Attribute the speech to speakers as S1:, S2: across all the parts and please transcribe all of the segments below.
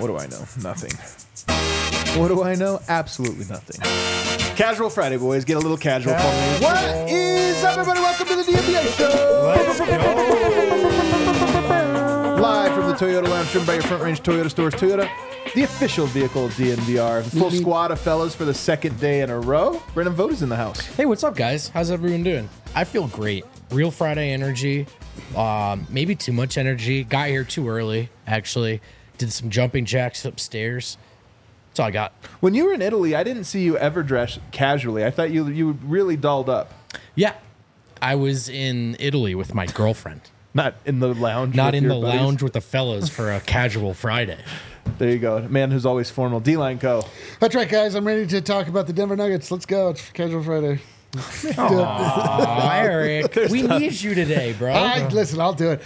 S1: What do I know? Nothing. What do I know? Absolutely nothing. Casual Friday, boys. Get a little casual for me. What is up, everybody? Welcome to the DMBA Show.
S2: Let's go.
S1: Live from the Toyota Lounge, driven by your Front Range Toyota stores. Toyota, the official vehicle of DNVR. The full squad of fellas for the second day in a row. Brendan Vogt is in the house.
S3: Hey, what's up, guys? How's everyone doing? I feel great. Real Friday energy. Maybe too much energy. Got here too early, actually. Did some jumping jacks upstairs. That's all I got.
S1: When you were in Italy, I didn't see you ever dress casually. I thought you really dolled up.
S3: Yeah. I was in Italy with my girlfriend.
S1: Not in the lounge.
S3: Not
S1: with
S3: in
S1: your
S3: the
S1: buddies?
S3: lounge with the fellas for a casual Friday.
S1: There you go. A man who's always formal. D-Line Co.
S2: That's right, guys. I'm ready to talk about the Denver Nuggets. Let's go. It's Casual Friday.
S3: Aw, Eric. We need you today, bro.
S2: Listen, I'll do it.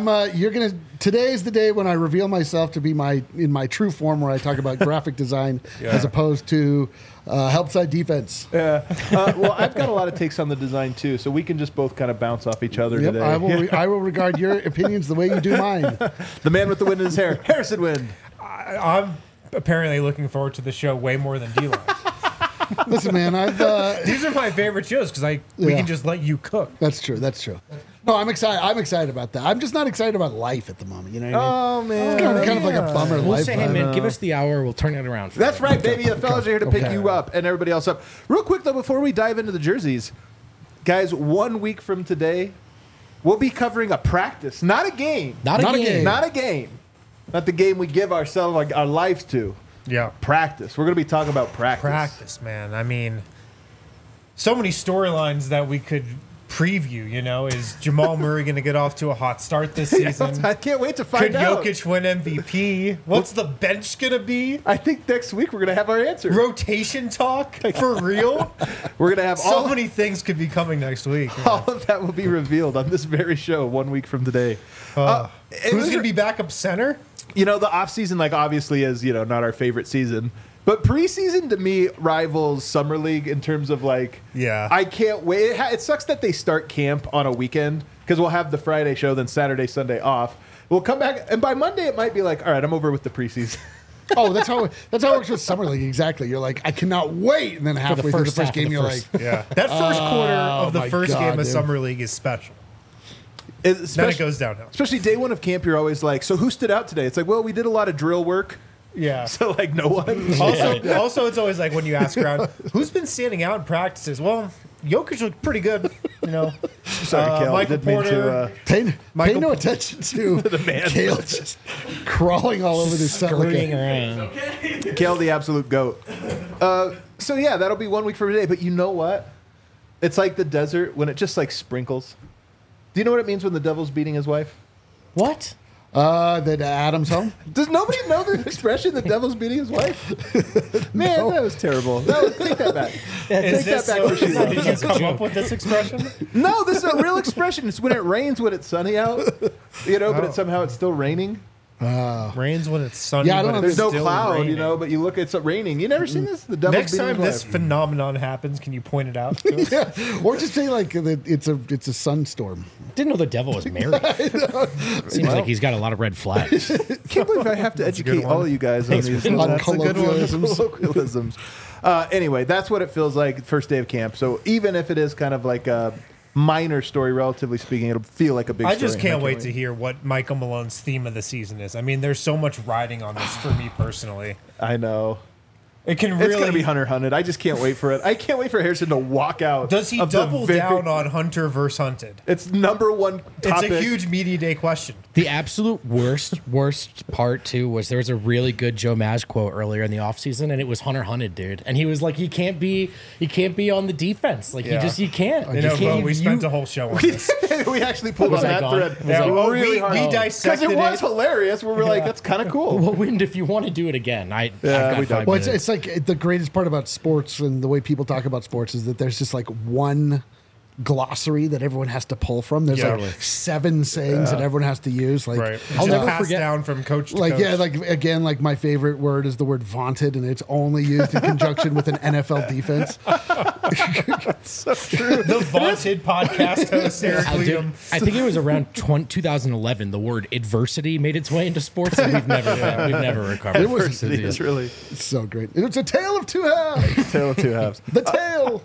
S2: Today is the day when I reveal myself to be in my true form, where I talk about graphic design as opposed to help side defense.
S1: Yeah. Well, I've got a lot of takes on the design too, so we can just both kind of bounce off each other
S2: Yep,
S1: today.
S2: I will regard your opinions the way you do mine.
S1: The man with the wind in his hair, Harrison Wind.
S4: I'm apparently looking forward to the show way more than D-Line.
S2: Listen, man,
S4: These are my favorite shows because we can just let you cook.
S2: That's true. No, I'm excited. I'm excited about that. I'm just not excited about life at the moment. You know what I mean?
S1: Oh man,
S2: It's kind of like a bummer
S3: We'll
S2: life.
S3: say, hey, man, give us the hour. We'll turn it around.
S1: That's right, baby. The fellas are here to pick
S2: Okay.
S1: you up and everybody else up. Real quick though, before we dive into the jerseys, guys, 1 week from today, we'll be covering a practice, not a game.
S3: Not a game.
S1: Not a game. Not the game we give ourselves like our lives to.
S4: Yeah.
S1: Practice. We're going to be talking about practice.
S4: Practice, man. I mean, so many storylines that we could preview, you know. Is Jamal Murray going to get off to a hot start this season?
S1: I can't wait to find
S4: Could
S1: out.
S4: Jokic win MVP? What's the bench going to be?
S1: I think next week we're going to have our answer.
S4: Rotation talk? For real?
S1: We're going to have
S4: So many things could be coming next week.
S1: all of that will be revealed on this very show 1 week from today.
S4: Who's going to be backup center?
S1: You know, the offseason, like, obviously is, you know, not our favorite season. But preseason, to me, rivals Summer League in terms of, like,
S4: Yeah.
S1: I can't wait. It sucks that they start camp on a weekend because we'll have the Friday show, then Saturday, Sunday off. We'll come back, and by Monday, it might be like, all right, I'm over with the preseason.
S2: Oh, that's how it works with summer league. Exactly. You're like, I cannot wait, and then halfway through the first game, you're like,
S4: Yeah. That first quarter of the
S2: my
S4: first
S2: God,
S4: game of
S2: dude.
S4: Summer League is special.
S1: Especially,
S4: Then it goes downhill.
S1: Especially day one of camp, you're always like, so who stood out today? It's like, well, we did a lot of drill work.
S4: Yeah.
S1: So, like, no one.
S4: Also, it's always like when you ask around, who's been standing out in practices? Well, Jokic looked pretty good, you know.
S1: Sorry, Kel.
S4: Michael
S1: Didn't mean
S4: Porter.
S1: to,
S2: pay
S4: Michael-
S2: no attention to the
S1: man.
S2: Kale just crawling all over this set like
S3: Scurrying
S2: a,
S3: around.
S1: Kel, the absolute goat. So yeah, that'll be 1 week from today. But you know what? It's like the desert when it just like sprinkles. Do you know what it means when the devil's beating his wife?
S3: What?
S2: that Adam's home.
S1: Does nobody know the expression "the devil's beating his wife"? Man, that was terrible. Take that back. Take that back for Sheila.
S4: Did you come up with this expression?
S1: No, this is a real expression. It's when it rains when it's sunny out. You know, but somehow it's still raining.
S4: Rains when it's sunny.
S2: Yeah, I don't
S4: but
S2: know.
S4: it's
S1: There's no
S4: still
S1: cloud,
S4: raining.
S1: you know, but you look, it's raining. You never seen this? The devil's
S4: Next
S1: beating
S4: time
S1: his
S4: this
S1: wife.
S4: phenomenon happens, can you point it out to us?
S2: Yeah. Or just say like that it's a sunstorm.
S3: Didn't know the devil was married. Seems like he's got a lot of red flags.
S1: Can't believe I have to educate all of you guys on these
S2: On
S1: that's a good one.
S2: colloquialisms.
S1: colloquialisms. Anyway, that's what it feels like first day of camp. So even if it is kind of like a minor story, relatively speaking, it'll feel like a big
S4: I
S1: story.
S4: just can't wait to hear what Michael Malone's theme of the season is. I mean, there's so much riding on this for me personally.
S1: I know.
S4: It can
S1: It's
S4: really.
S1: going to be Hunter Hunted. I just can't wait for it. I can't wait for Harrison to walk out.
S4: Does he
S1: of the
S4: double
S1: very-
S4: down on Hunter versus Hunted?
S1: It's number one topic.
S4: It's a huge media day question.
S3: The absolute worst part, too, was there was a really good Joe Maz quote earlier in the offseason, and it was Hunter Hunted, dude. And he was like, he can't be on the defense. Like,
S4: Yeah.
S3: you can't.
S4: You know,
S3: You can't-
S4: we spent a whole show on this.
S1: we actually pulled
S3: Was
S1: on
S3: I
S1: that
S3: gone?
S1: thread
S3: Was I-
S4: Oh,
S1: really
S4: we
S1: hard. Because
S4: dissected
S1: it was
S4: it.
S1: hilarious. We were like, that's kind of cool.
S3: Well, Wind, if you want to do it again, I've
S1: we
S3: got
S1: don't.
S3: 5
S2: Well,
S3: minutes.
S2: it's like the greatest part about sports and the way people talk about sports is that there's just like one glossary that everyone has to pull from. There's
S4: Yeah.
S2: like 7 sayings that everyone has to use. Like,
S4: Right.
S3: I'll never
S4: Passed
S3: forget-
S4: down from coach to
S2: like
S4: coach.
S2: yeah, like again, like my favorite word is the word vaunted, and it's only used in conjunction with an NFL defense.
S4: The vaunted podcast host, Eric
S3: I'll do-
S4: Liam.
S3: I think it was around 2011. The word adversity made its way into sports, and we've never recovered.
S2: It was-
S1: Diversity is really
S2: It's so great. It's a tale of two halves.
S1: tale of two halves.
S2: The tale.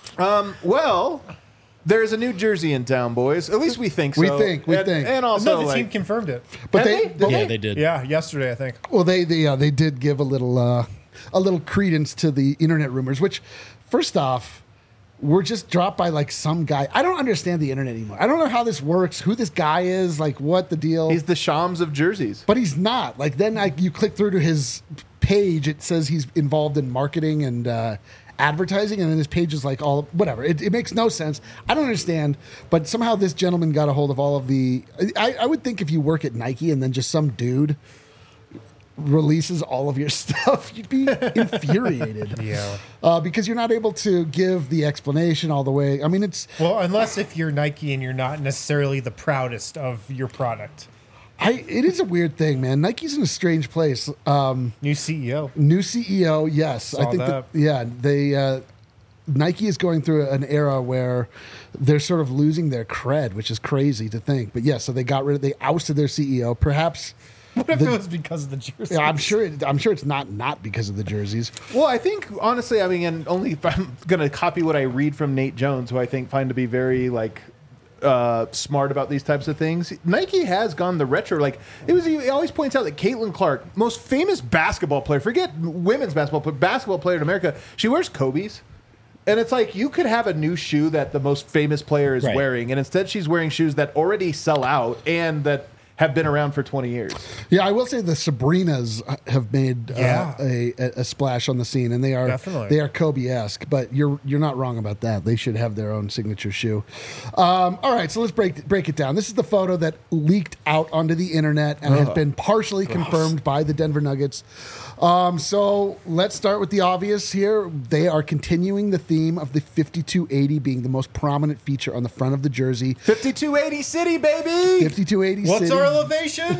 S1: Well, there's a New Jersey in town, boys. At least we think so.
S2: We think.
S1: And also,
S4: No, the
S1: like,
S4: team confirmed it.
S2: But
S1: Have
S2: they,
S3: Yeah, they did.
S4: Yeah, yesterday, I think.
S2: well, they did give a little credence to the internet rumors. Which, first off, were just dropped by like some guy. I don't understand the internet anymore. I don't know how this works. Who this guy is? Like, what the deal?
S1: he's the Shams of jerseys.
S2: But he's not. Like then, you click through to his page. It says he's involved in marketing and advertising, and then his page is like all whatever. It makes no sense. I don't understand. But somehow this gentleman got a hold of all of the. I would think if you work at Nike and then just some dude releases all of your stuff, you'd be infuriated.
S4: Yeah.
S2: Because you're not able to give the explanation all the way. I mean, it's.
S4: Well, unless if you're Nike and you're not necessarily the proudest of your product.
S2: It is a weird thing, man. Nike's in a strange place.
S4: New CEO.
S2: New CEO, yes. I
S4: Saw
S2: think
S4: that.
S2: they Nike is going through an era where they're sort of losing their cred, which is crazy to think. But yeah, so they ousted their CEO. Perhaps
S4: What if it was because of the jersey?
S2: I'm sure it's not because of the jerseys.
S1: Well, I think honestly, I mean, and only if I'm going to copy what I read from Nate Jones, who I think find to be very like smart about these types of things. Nike has gone the retro. Like he always points out that Caitlin Clark, most famous basketball player, forget women's basketball, but basketball player in America, she wears Kobe's. And it's like you could have a new shoe that the most famous player is
S3: Right.
S1: wearing, and instead she's wearing shoes that already sell out and that have been around for 20 years.
S2: Yeah, I will say the Sabrinas have made
S4: Yeah.
S2: a splash on the scene, and they
S4: Definitely.
S2: are Kobe-esque. But you're not wrong about that. They should have their own signature shoe. All right, so let's break it down. This is the photo that leaked out onto the internet and has been partially confirmed by the Denver Nuggets. So let's start with the obvious here. They are continuing the theme of the 5280 being the most prominent feature on the front of the jersey.
S1: 5280 City, baby!
S2: 5280
S4: What's
S2: City.
S4: our elevation?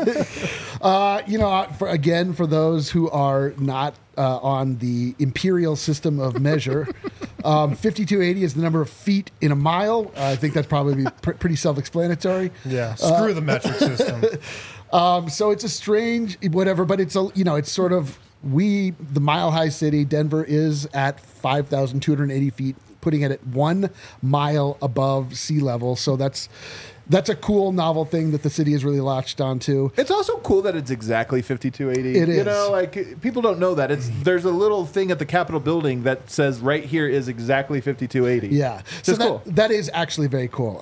S2: For those who are not on the imperial system of measure, 5280 is the number of feet in a mile. I think that's probably pretty self-explanatory.
S4: Yeah. Screw the metric system.
S2: So it's a strange whatever, but it's it's sort of the Mile High City. Denver is at 5,280 feet, putting it at 1 mile above sea level. So that's a cool, novel thing that the city has really latched onto.
S1: It's also cool that it's exactly 5280.
S2: It
S1: You
S2: is.
S1: know, like people don't know that. There's a little thing at the Capitol building that says right here is exactly 5280.
S2: Yeah,
S1: Just
S2: so
S1: cool.
S2: that is actually very cool.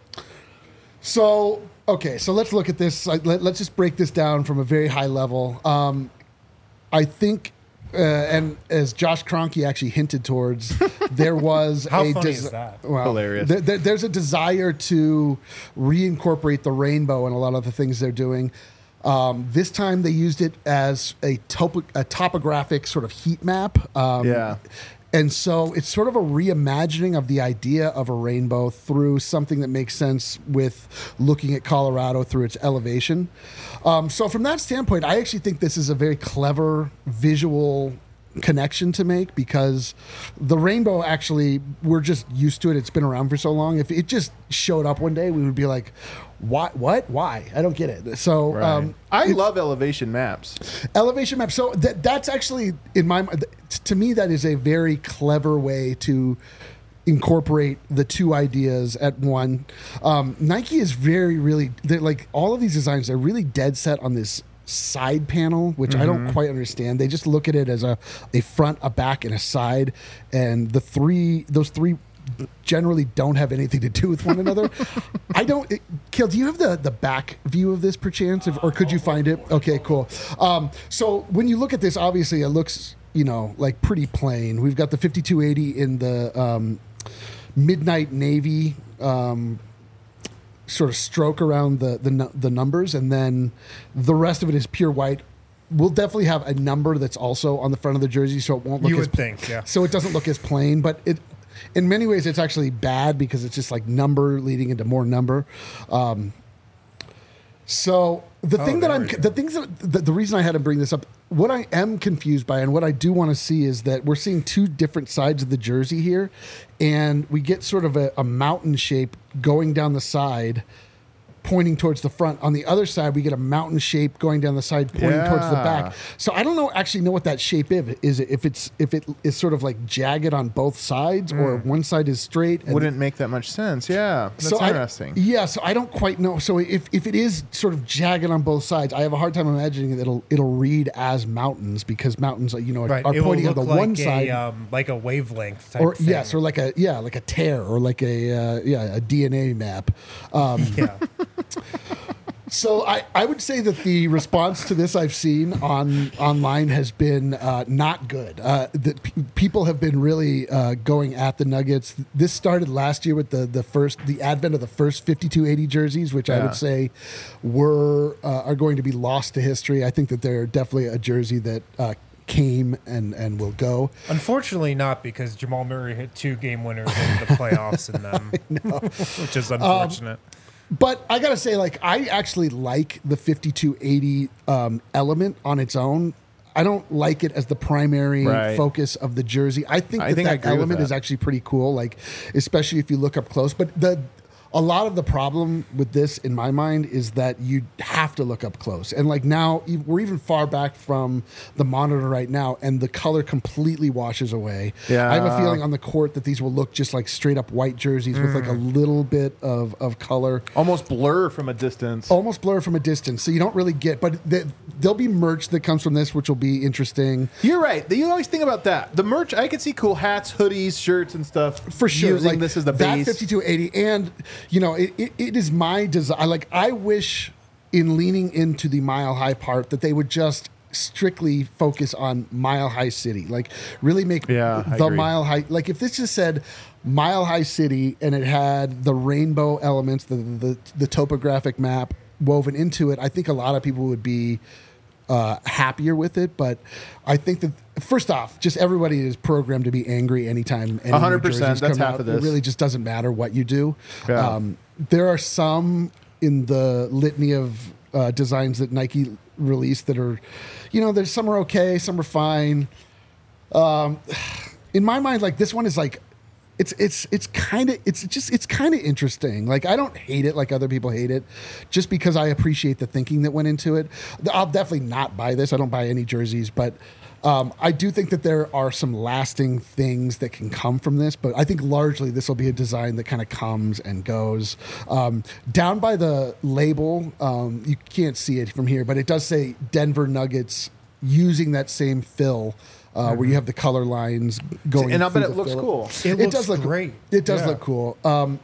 S2: So let's look at this. Let's just break this down from a very high level. I think, and as Josh Kroenke actually hinted towards, there was
S4: How funny is that?
S2: Well,
S1: Hilarious.
S2: There's a desire to reincorporate the rainbow in a lot of the things they're doing. This time they used it as a topographic sort of heat map.
S1: Yeah.
S2: And so it's sort of a reimagining of the idea of a rainbow through something that makes sense with looking at Colorado through its elevation. So from that standpoint, I actually think this is a very clever visual connection to make, because the rainbow, actually, we're just used to it. It's been around for so long. If it just showed up one day, we would be like, what? Why? I don't get it. So
S1: I love elevation maps.
S2: elevation map. So that's actually, in my mind, to me, that is a very clever way to incorporate the two ideas at one. Nike is they're like, all of these designs, they're really dead set on this side panel, which I don't quite understand. They just look at it as a front, a back, and a side, and those three generally don't have anything to do with one another. Kill, do you have the back view of this perchance, or could you find it? Okay, cool. So when you look at this, obviously it looks, like pretty plain. We've got the 5280 in the midnight navy sort of stroke around the numbers, and then the rest of it is pure white. We'll definitely have a number that's also on the front of the jersey, so it won't look
S4: You
S2: as
S4: would think, yeah.
S2: so it doesn't look as plain, but in many ways, it's actually bad because it's just like number leading into more number. So the thing that the reason I had to bring this up, what I am confused by and what I do want to see is that we're seeing two different sides of the jersey here, and we get sort of a mountain shape going down the side, pointing towards the front. On the other side, we get a mountain shape going down the side, pointing towards the back. So I don't know what that shape is. If it is sort of like jagged on both sides, or one side is straight. And
S1: Wouldn't make that much sense. Yeah, that's interesting.
S2: So I don't quite know. So if it is sort of jagged on both sides, I have a hard time imagining that it'll read as mountains, because mountains, are pointing on the one side,
S4: like a wavelength type
S2: or
S4: thing.
S2: yes, or like a tear, or like a DNA map. So I would say that the response to this I've seen online has been not good. That people have been really going at the Nuggets. This started last year with the advent of the first 5280 jerseys, which I would say are going to be lost to history. I think that they're definitely a jersey that came and will go.
S4: Unfortunately not, because Jamal Murray hit 2 game winners in the playoffs in them, which is unfortunate.
S2: But I gotta say, like, I actually like the 5280 element on its own. I don't like it as the primary focus of the jersey. I think that element is actually pretty cool, like, especially if you look up close. But a lot of the problem with this, in my mind, is that you have to look up close. And like now, we're even far back from the monitor right now, and the color completely washes away.
S1: Yeah.
S2: I have a feeling on the court that these will look just like straight up white jerseys with like a little bit of color.
S1: Almost blur from a distance.
S2: So you don't really get, but there'll be merch that comes from this, which will be interesting.
S1: You're right. You always think about that. The merch, I can see cool hats, hoodies, shirts, and stuff.
S2: For sure.
S1: Using
S2: like
S1: this as the
S2: that
S1: base.
S2: 5280, and it is my desire. Like, I wish in leaning into the Mile High part that they would just strictly focus on Mile High City. Like, really make the Mile High. Like, if this just said Mile High City and it had the rainbow elements, the topographic map woven into it, I think a lot of people would be happier with it. But I think that, first off, just everybody is programmed to be angry anytime.
S1: 100%. That's half of this.
S2: It really just doesn't matter what you do.
S1: Yeah.
S2: There are some in the litany of designs that Nike released that are, there's some are okay, some are fine. In my mind, like, this one is like, it's kind of interesting. Like, I don't hate it like other people hate it, just because I appreciate the thinking that went into it. I'll definitely not buy this. I don't buy any jerseys, but I do think that there are some lasting things that can come from this. But I think largely this will be a design that kind of comes and goes. Down by the label, you can't see it from here, but it does say Denver Nuggets, using that same fill. Where you have the color lines going,
S1: and I bet it looks cool.
S4: It does look great.
S2: It does look cool.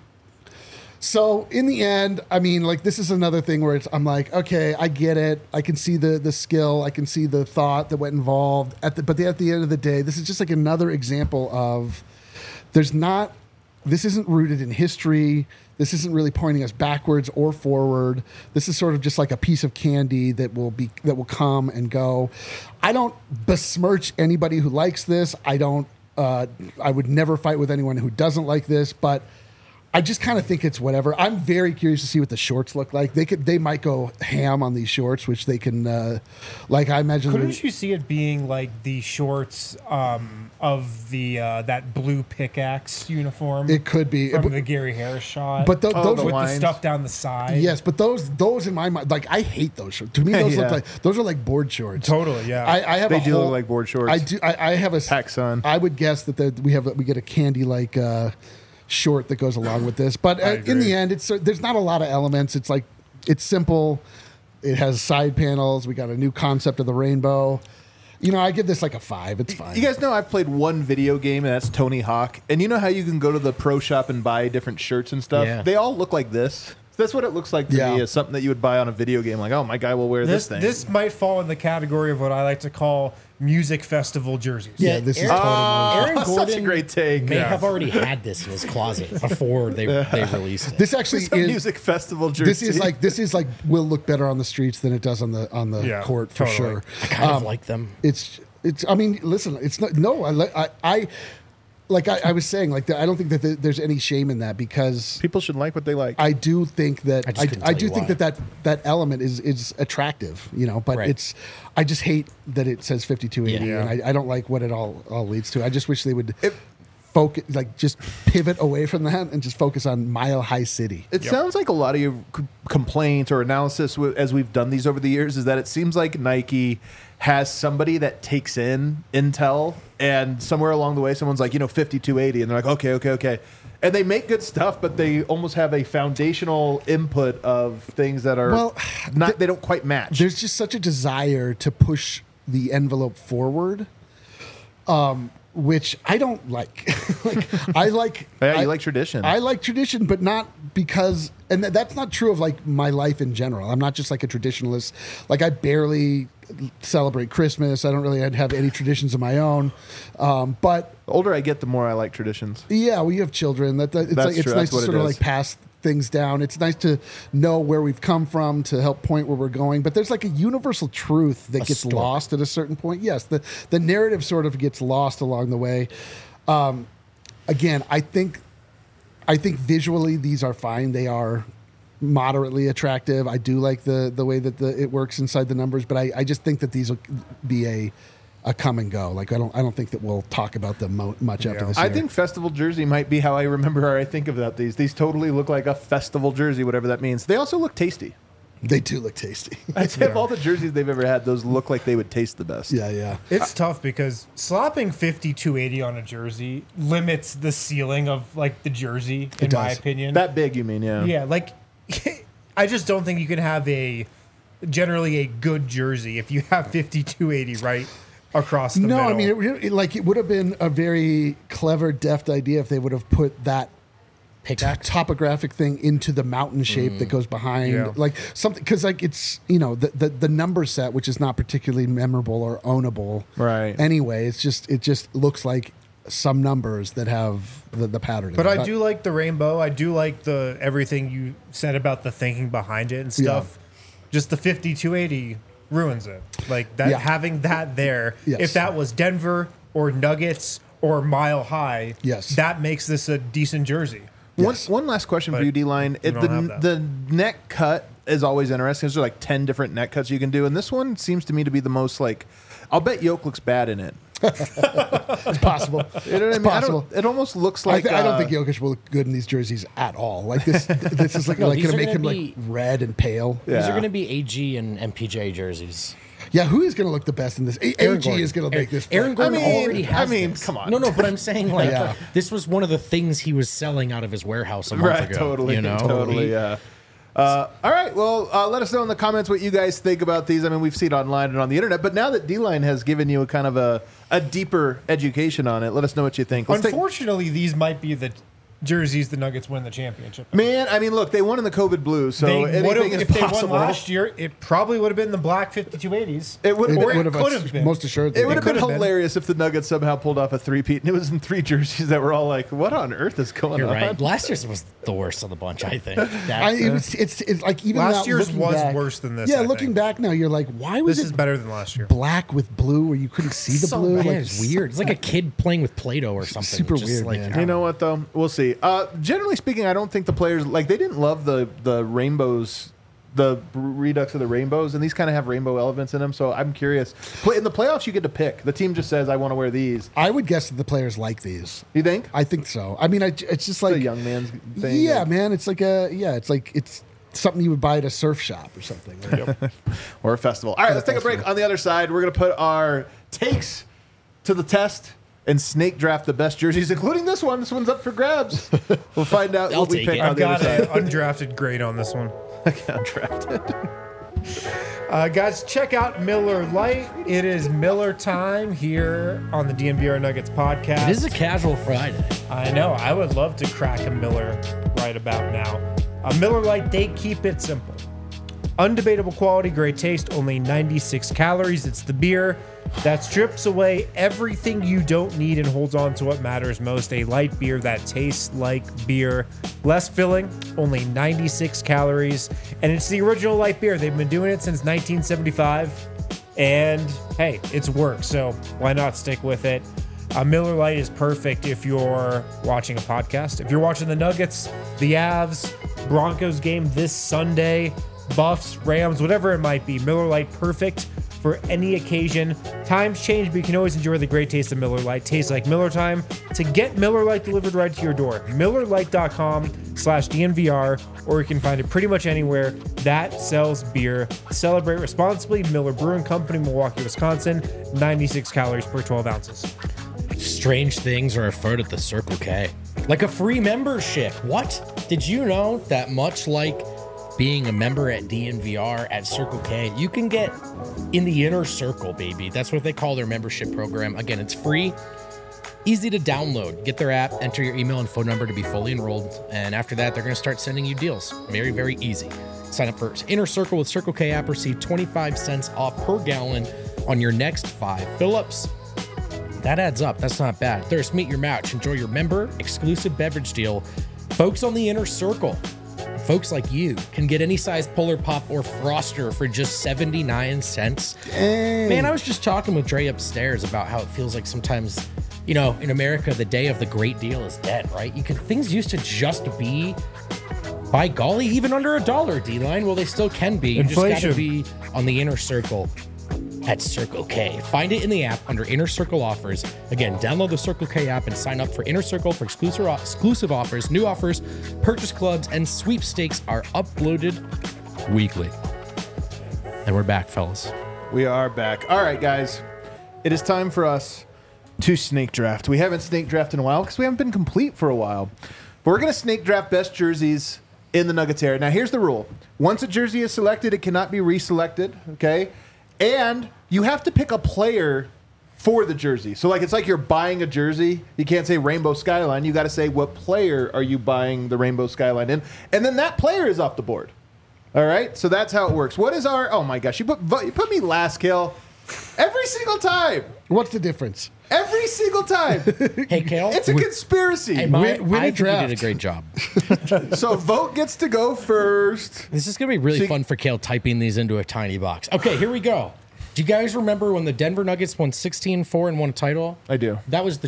S2: So in the end, I mean, like, this is another thing where I'm like, okay, I get it. I can see the skill. I can see the thought that went involved. But at the end of the day, this is just like another example of this isn't rooted in history. This isn't really pointing us backwards or forward. This is sort of just like a piece of candy that will come and go. I don't besmirch anybody who likes this. I would never fight with anyone who doesn't like this, but I just kind of think it's whatever. I'm very curious to see what the shorts look like. They might go ham on these shorts, which they can, like, I imagine.
S4: Couldn't you see it being like the shorts of the that blue pickaxe uniform?
S2: It could be
S4: from the Gary Harris shot,
S2: but those
S4: with
S1: lines.
S4: the stuff down the side.
S2: Yes, but those in my mind, like, I hate those shorts. To me, those those are like board shorts.
S4: Totally, yeah.
S2: I have
S1: they do look like board shorts.
S2: I do. I have a
S1: PacSun.
S2: I would guess that we get a candy like. Short that goes along with this, but in the end, there's not a lot of elements. It's like, it's simple. It has side panels. We got a new concept of the rainbow. I give this like a 5. It's fine.
S1: You guys know I've played one video game, and that's Tony Hawk. And you know how you can go to the pro shop and buy different shirts and stuff?
S3: Yeah.
S1: They all look like this. That's what it looks like to me, is something that you would buy on a video game. Like, oh, my guy will wear this thing.
S4: This might fall in the category of what I like to call music festival jerseys.
S2: Yeah, this is totally.
S3: Aaron Gordon
S1: such a great take.
S3: may have already had this in his closet before they released it.
S2: This actually
S1: It's a
S2: is
S1: music festival jersey.
S2: This is like will look better on the streets than it does on the court for sure.
S3: I kind of like them.
S2: It's. I mean, listen. It's not. No, I like I was saying, like I don't think that there's any shame in that because
S1: People should like what they like.
S2: I do think that
S3: just couldn't
S2: I
S3: tell
S2: do
S3: you
S2: think
S3: why.
S2: that element is attractive, you know. But
S3: Right.
S2: I just hate that it says 5280,
S4: Yeah.
S2: and I don't like what it all leads to. I just wish they would focus, like just pivot away from that and just focus on Mile High City.
S1: It sounds like a lot of your complaints or analysis as we've done these over the years is that it seems like Nike has somebody that takes in intel, and somewhere along the way, someone's like, 5280, and they're like, okay. And they make good stuff, but they almost have a foundational input of things that are
S2: Well,
S1: they don't quite match.
S2: There's just such a desire to push the envelope forward, which I don't like. I like.
S1: Yeah, you like tradition.
S2: I like tradition, but not because, and that's not true of like my life in general. I'm not just like a traditionalist. Like I barely celebrate Christmas. I don't really have any traditions of my own. But
S1: The older I get, the more I like traditions.
S2: yeah, well, you have children. It's
S1: That's
S2: like, it's
S1: true.
S2: nice
S1: That's
S2: to
S1: what it
S2: sort of
S1: is.
S2: like pass things down. It's nice to know where we've come from to help point where we're going. But there's like a universal truth that gets
S3: story.
S2: lost at a certain point. Yes, the narrative sort of gets lost along the way. Again, I think visually these are fine. They are moderately attractive. I do like the way that it works inside the numbers, but I just think that these will be a come and go. Like I don't think that we'll talk about them much after this
S1: I
S2: year.
S1: think festival jersey might be how I remember or I think about these. These totally look like a festival jersey, whatever that means. They also look tasty.
S2: they do look tasty.
S1: I'd say of all the jerseys they've ever had, those look like they would taste the best.
S2: Yeah.
S4: It's tough because slapping 5280 on a jersey limits the ceiling of like the jersey, in my
S2: does.
S4: opinion.
S1: That big, you mean? Yeah.
S4: Yeah, like I just don't think you can have generally a good jersey if you have 5280 right across the
S2: No,
S4: middle.
S2: I mean, it would have been a very clever, deft idea if they would have put that
S3: Pickaxe.
S2: topographic thing into the mountain shape that goes behind,
S4: Yeah.
S2: like something, because like it's the number set, which is not particularly memorable or ownable,
S1: Right.
S2: Anyway, it just looks like some numbers that have the pattern.
S4: But
S2: in it.
S4: I do like the rainbow. I do like the everything you said about the thinking behind it and stuff. Just the 5280 ruins it. Like that
S2: Yeah.
S4: having that there.
S2: Yes.
S4: If that was Denver or Nuggets or Mile High,
S2: Yes.
S4: that makes this a decent jersey.
S2: Yes.
S1: One last question for
S4: But
S1: you, D-Line.
S4: we don't have that.
S1: The neck cut is always interesting. There's like 10 different neck cuts you can do, and this one seems to me to be the most like. I'll bet Yoke looks bad in it.
S2: It's possible.
S1: You know what I mean?
S2: possible.
S1: It almost looks like.
S2: I don't think Jokic will look good in these jerseys at all. Like this is like,
S3: No,
S2: like
S3: these
S2: going to
S3: are
S2: make him
S3: gonna
S2: like red and pale.
S1: Yeah.
S3: These are going to be AG and MPJ jerseys.
S2: Yeah, who is going to look the best in this?
S3: Aaron
S2: AG
S3: Gordon.
S2: is going to make this.
S3: Aaron Gordon
S1: I mean-
S3: already has
S1: I mean,
S3: this.
S1: come on.
S3: No, but I'm saying like
S2: Yeah.
S3: this was one of the things he was selling out of his warehouse a month
S1: Right,
S3: ago.
S1: totally,
S3: you know?
S1: totally, yeah. All right, well, let us know in the comments what you guys think about these. I mean, we've seen it online and on the internet, but now that D-Line has given you a kind of a deeper education on it, let us know what you think. Let's take-
S4: Unfortunately, these might be the jerseys the Nuggets win the championship.
S1: Man, I mean, look, they won in the COVID blue, so
S4: They would
S1: anything
S4: have
S1: is
S4: if they
S1: possible.
S4: won last year. It probably would have been the black 5280s.
S1: It would,
S2: It
S1: or
S2: would
S1: it,
S2: have
S4: been.
S2: most assuredly.
S1: it would have been
S4: could have been.
S1: hilarious if the Nuggets somehow pulled off a three-peat, and it was in three jerseys that were all like, what on earth is going
S3: You're
S1: on?
S3: right. Last year's was the worst of the bunch, I think.
S2: It's like even
S4: Last
S2: now,
S4: year's
S2: looking
S4: was
S2: back-
S4: worse than this,
S2: Yeah,
S4: I
S2: looking
S4: think.
S2: back now, you're like, why was
S4: This is
S2: it
S4: better than last year.
S2: black with blue where you couldn't see the
S3: so
S2: blue?
S3: bad.
S2: Like
S3: It's weird. It's like a kid playing with Play-Doh or something.
S2: super
S3: Just
S2: weird,
S3: like,
S2: man.
S3: I don't
S1: You know
S3: know.
S1: what though? We'll see. Generally speaking, I don't think the players like they didn't love the rainbows, the redux of the rainbows, and these kind of have rainbow elements in them. So I'm curious. In the playoffs, you get to pick. The team just says, "I want to wear these."
S2: I would guess that the players like these.
S1: You think?
S2: I think so. I mean, it's just like
S1: the young man's thing.
S2: Yeah, man. It's like it's something you would buy at a surf shop or something. Right?
S1: Or a festival. All right, let's take a break. On the other side, we're going to put our takes to the test and snake draft the best jerseys, including this one. This one's up for grabs. We'll find out
S3: I'll
S1: what we
S3: take
S1: pick
S3: it.
S1: on
S4: I've
S1: the other
S4: got
S1: side.
S4: an undrafted grade on this one.
S1: Undrafted.
S4: Guys, check out Miller Lite. It is Miller time here on the DNVR Nuggets podcast.
S3: It is a casual Friday.
S4: I know. I would love to crack a Miller right about now. A Miller Lite, they keep it simple. Undebatable quality, great taste, only 96 calories. It's the beer that strips away everything you don't need and holds on to what matters most. A light beer that tastes like beer. Less filling, only 96 calories. And it's the original light beer. They've been doing it since 1975. And hey, it's worked. So why not stick with it? Miller Lite is perfect if you're watching a podcast. If you're watching the Nuggets, the Avs, Broncos game this Sunday, Buffs, Rams, whatever it might be, Miller Lite perfect for any occasion. Times change, but you can always enjoy the great taste of Miller Lite. Tastes like Miller time. To get Miller Lite delivered right to your door, MillerLite.com/DNVR, or you can find it pretty much anywhere that sells beer. Celebrate responsibly. Miller Brewing Company, Milwaukee, Wisconsin. 96 calories per 12 ounces.
S3: Strange things are afoot at the Circle K. Like a free membership. What? Did you know that much like being a member at DNVR at Circle K, you can get in the inner circle, baby. That's what they call their membership program. Again, it's free, easy to download. Get their app, enter your email and phone number to be fully enrolled. And after that, they're going to start sending you deals. Very, very easy. Sign up for Inner Circle with Circle K app. Receive 25 cents off per gallon on your next 5 fill-ups. That adds up. That's not bad. Thirst, meet your match. Enjoy your member exclusive beverage deal. Folks on the Inner Circle, folks like you, can get any size Polar Pop or Froster for just 79 cents. Man, I was just talking with Dre upstairs about how it feels like sometimes, you know, in America, the day of the great deal is dead, right? Things used to just be, by golly, even under $1, D-Line. Well, they still can be. You just got to be on the Inner Circle at Circle K. Find it in the app under Inner Circle offers. Again, download the Circle K app and sign up for Inner Circle for exclusive offers, new offers, purchase clubs, and sweepstakes are uploaded weekly. And we're back, fellas.
S1: We are back. All right, guys. It is time for us to snake draft. We haven't snake drafted in a while because we haven't been complete for a while. But we're going to snake draft best jerseys in the Nuggets area. Now, here's the rule. Once a jersey is selected, it cannot be reselected, okay? And you have to pick a player for the jersey. So, like, it's like you're buying a jersey. You can't say Rainbow Skyline. You got to say what player are you buying the Rainbow Skyline in. And then that player is off the board. All right? So that's how it works. What is our... Oh, my gosh. You put me last, Kale. Every single time.
S2: What's the difference?
S1: Every single time.
S3: Hey, Kale.
S1: It's a conspiracy.
S3: Hey,
S2: Win a
S3: I think you
S2: draft.
S3: did a great job.
S1: So vote gets to go first.
S3: This is going to be really fun for Kale typing these into a tiny box. Okay, here we go. Do you guys remember when the Denver Nuggets won 16-4 and won a title?
S1: I do.
S3: That was the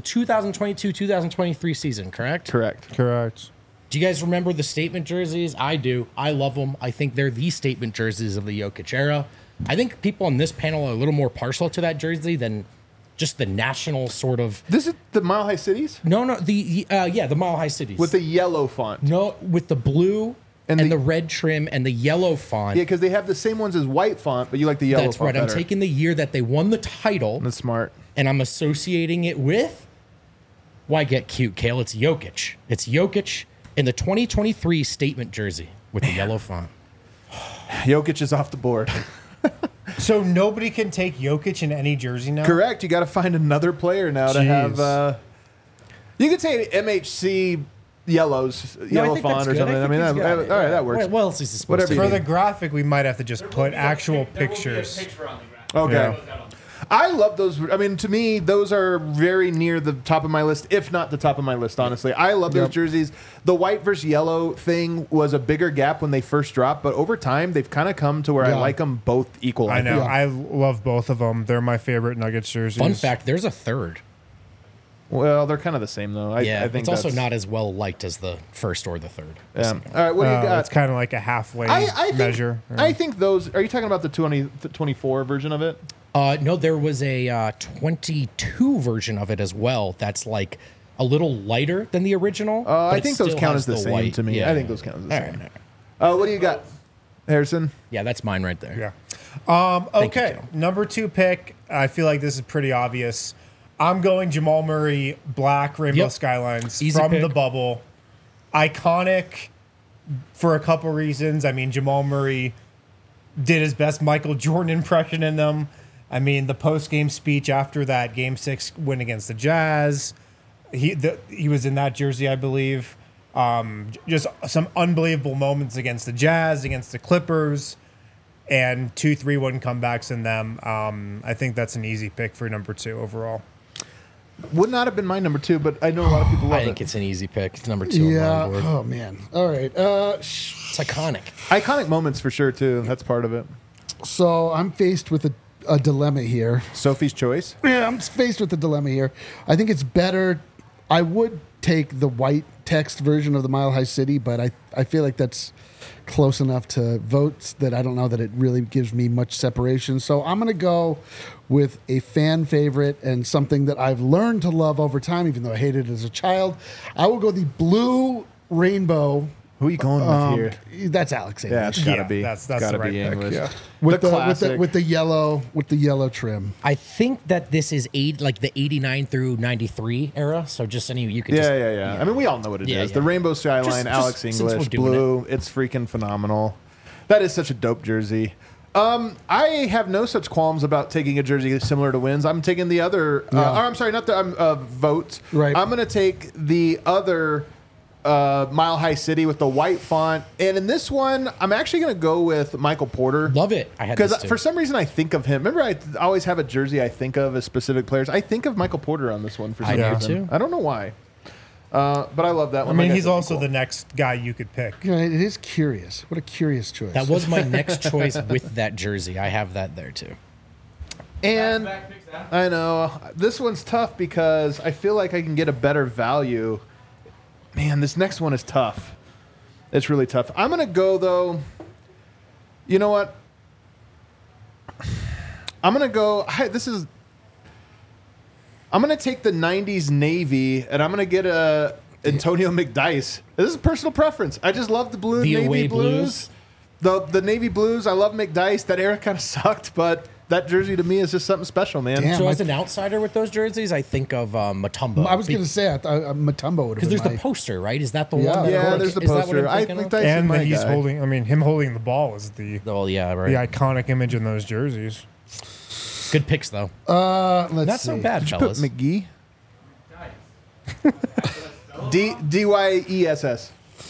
S3: 2022-2023 season, correct?
S1: Correct.
S3: Do you guys remember the statement jerseys? I do. I love them. I think they're the statement jerseys of the Jokic era. I think people on this panel are a little more partial to that jersey than just the national sort of...
S1: This is the Mile High Cities?
S3: No, the Mile High Cities.
S1: With the yellow font.
S3: No, with the blue and the red trim and the yellow font.
S1: Yeah, because they have the same ones as white font, but you like the yellow
S3: That's
S1: font
S3: right. I'm
S1: better.
S3: taking the year that they won the title.
S1: That's smart.
S3: And I'm associating it with... Why get cute, Kale? It's Jokic. It's Jokic in the 2023 statement jersey with the yellow font.
S1: Jokic is off the board.
S4: So nobody can take Jokic in any jersey now?
S1: Correct. You got to find another player now to have... you could say MHC yellows, yellow font or something. I mean, all right, that works.
S3: What else is this supposed
S1: Whatever
S3: to
S1: you
S4: For
S3: be?
S4: the graphic, we might have to just put actual pictures.
S1: Okay.
S4: Yeah.
S1: I love those. I mean, to me, those are very near the top of my list, if not the top of my list, honestly. I love those jerseys. The white versus yellow thing was a bigger gap when they first dropped, but over time, they've kind of come to where I like them both equal.
S4: I know.
S2: Yeah.
S4: I love both of them. They're my favorite Nuggets jerseys.
S3: Fun fact, there's a third.
S1: Well, they're kind of the same, though. I think
S3: it's also
S1: that's-
S3: not as well liked as the first or the third.
S1: Yeah. All right, what do you got?
S4: It's kind of like a halfway
S1: I think,
S4: measure.
S1: I think those... Are you talking about the 24 version of it?
S3: No, there was a 22 version of it as well. That's like a little lighter than the original.
S1: I
S3: but it
S1: think those
S3: still
S1: count
S3: has
S1: as the same
S3: white.
S1: to me.
S3: Yeah.
S1: I think those count as the
S3: All
S1: same.
S3: right, all right.
S1: What do you got, Harrison?
S3: Yeah, that's mine right there.
S4: Yeah.
S3: you,
S4: Okay.
S3: Kel.
S4: Number 2 pick. I feel like this is pretty obvious. I'm going Jamal Murray, black Rainbow
S3: Yep.
S4: Skylines
S3: Easy
S4: from
S3: pick.
S4: the bubble. Iconic for a couple reasons. I mean, Jamal Murray did his best Michael Jordan impression in them. I mean, the post-game speech after that Game 6 win against the Jazz, he was in that jersey, I believe. Just some unbelievable moments against the Jazz, against the Clippers, and 2 3-1 comebacks in them. I think that's an easy pick for number 2 overall.
S1: Would not have been my number 2, but I know a lot of people love
S3: I think
S1: it.
S3: it's an easy pick. It's number 2
S2: Yeah.
S3: on my board.
S2: Oh man. All right.
S3: It's iconic.
S1: Iconic moments for sure, too. That's part of it.
S2: So I'm faced with a dilemma here.
S1: Sophie's choice.
S2: Yeah, I'm faced with a dilemma here. I think it's better. I would take the white text version of the Mile High City, but I feel like that's close enough to votes that I don't know that it really gives me much separation. So I'm going to go with a fan favorite and something that I've learned to love over time, even though I hated it as a child. I will go the Blue Rainbow.
S1: Who are you going with here?
S2: That's Alex
S1: Yeah,
S2: English.
S1: it's gotta
S4: Yeah,
S1: be.
S4: that's
S1: gotta
S4: the right
S1: be
S4: pick,
S1: English.
S2: Yeah. With
S1: The
S2: the,
S1: classic.
S2: with the yellow trim.
S3: I think that this is like the 89 through 93 era. So just any you could.
S1: Yeah. I mean, we all know what it is.
S3: Yeah,
S1: The
S3: yeah.
S1: Rainbow Skyline,
S3: Just
S1: Alex
S3: since we're
S1: English,
S3: doing
S1: blue. It's freaking phenomenal. That is such a dope jersey. I have no such qualms about taking a jersey similar to Wynn's. I'm taking the other.
S2: Yeah.
S1: Or I'm sorry, not the votes.
S2: Right.
S1: I'm going to take the other Mile High City with the white font. And in this one, I'm actually going to go with Michael Porter.
S3: Love it. I had this
S1: Because
S3: too.
S1: for some reason I think of him. Remember, I always have a jersey I think of as specific players. I think of Michael Porter on this one for some
S3: I do
S1: reason.
S3: too.
S1: I don't know why. But I love that
S4: I
S1: one.
S4: mean,
S1: Like
S4: he's
S1: said,
S4: also
S1: cool.
S4: the next guy you could pick.
S2: Yeah, it is curious. What a curious choice.
S3: That was my next choice with that jersey. I have that there too.
S1: And I know this one's tough because I feel like I can get a better value. Man, this next one is tough. It's really tough. I'm gonna go though. You know what? I'm gonna go. I'm gonna take the '90s Navy, and I'm gonna get a Antonio McDyess. This is personal preference. I just love the blue
S3: The
S1: Navy
S3: away
S1: blues. The Navy blues. I love McDyess. That era kind of sucked, but that jersey to me is just something special, man.
S2: Damn.
S3: So
S2: I
S3: as an outsider with those jerseys, I think of Matumbo.
S2: I was going to say Matumbo would have
S3: because
S2: been
S3: there's the poster, right? Is that the
S2: Yeah.
S3: one? That
S1: Yeah,
S3: like,
S1: there's the
S3: is that what
S1: poster.
S3: I'm
S1: I
S3: thinking
S1: think
S3: of?
S1: that's
S4: And
S1: my
S4: that he's
S1: guy.
S4: holding. I mean, him holding the ball is the
S3: Oh yeah, right.
S4: iconic image in those jerseys.
S3: Good picks though.
S2: let's
S3: Not
S2: see.
S3: so bad,
S1: Did you
S3: fellas.
S1: put McGee? DYESS.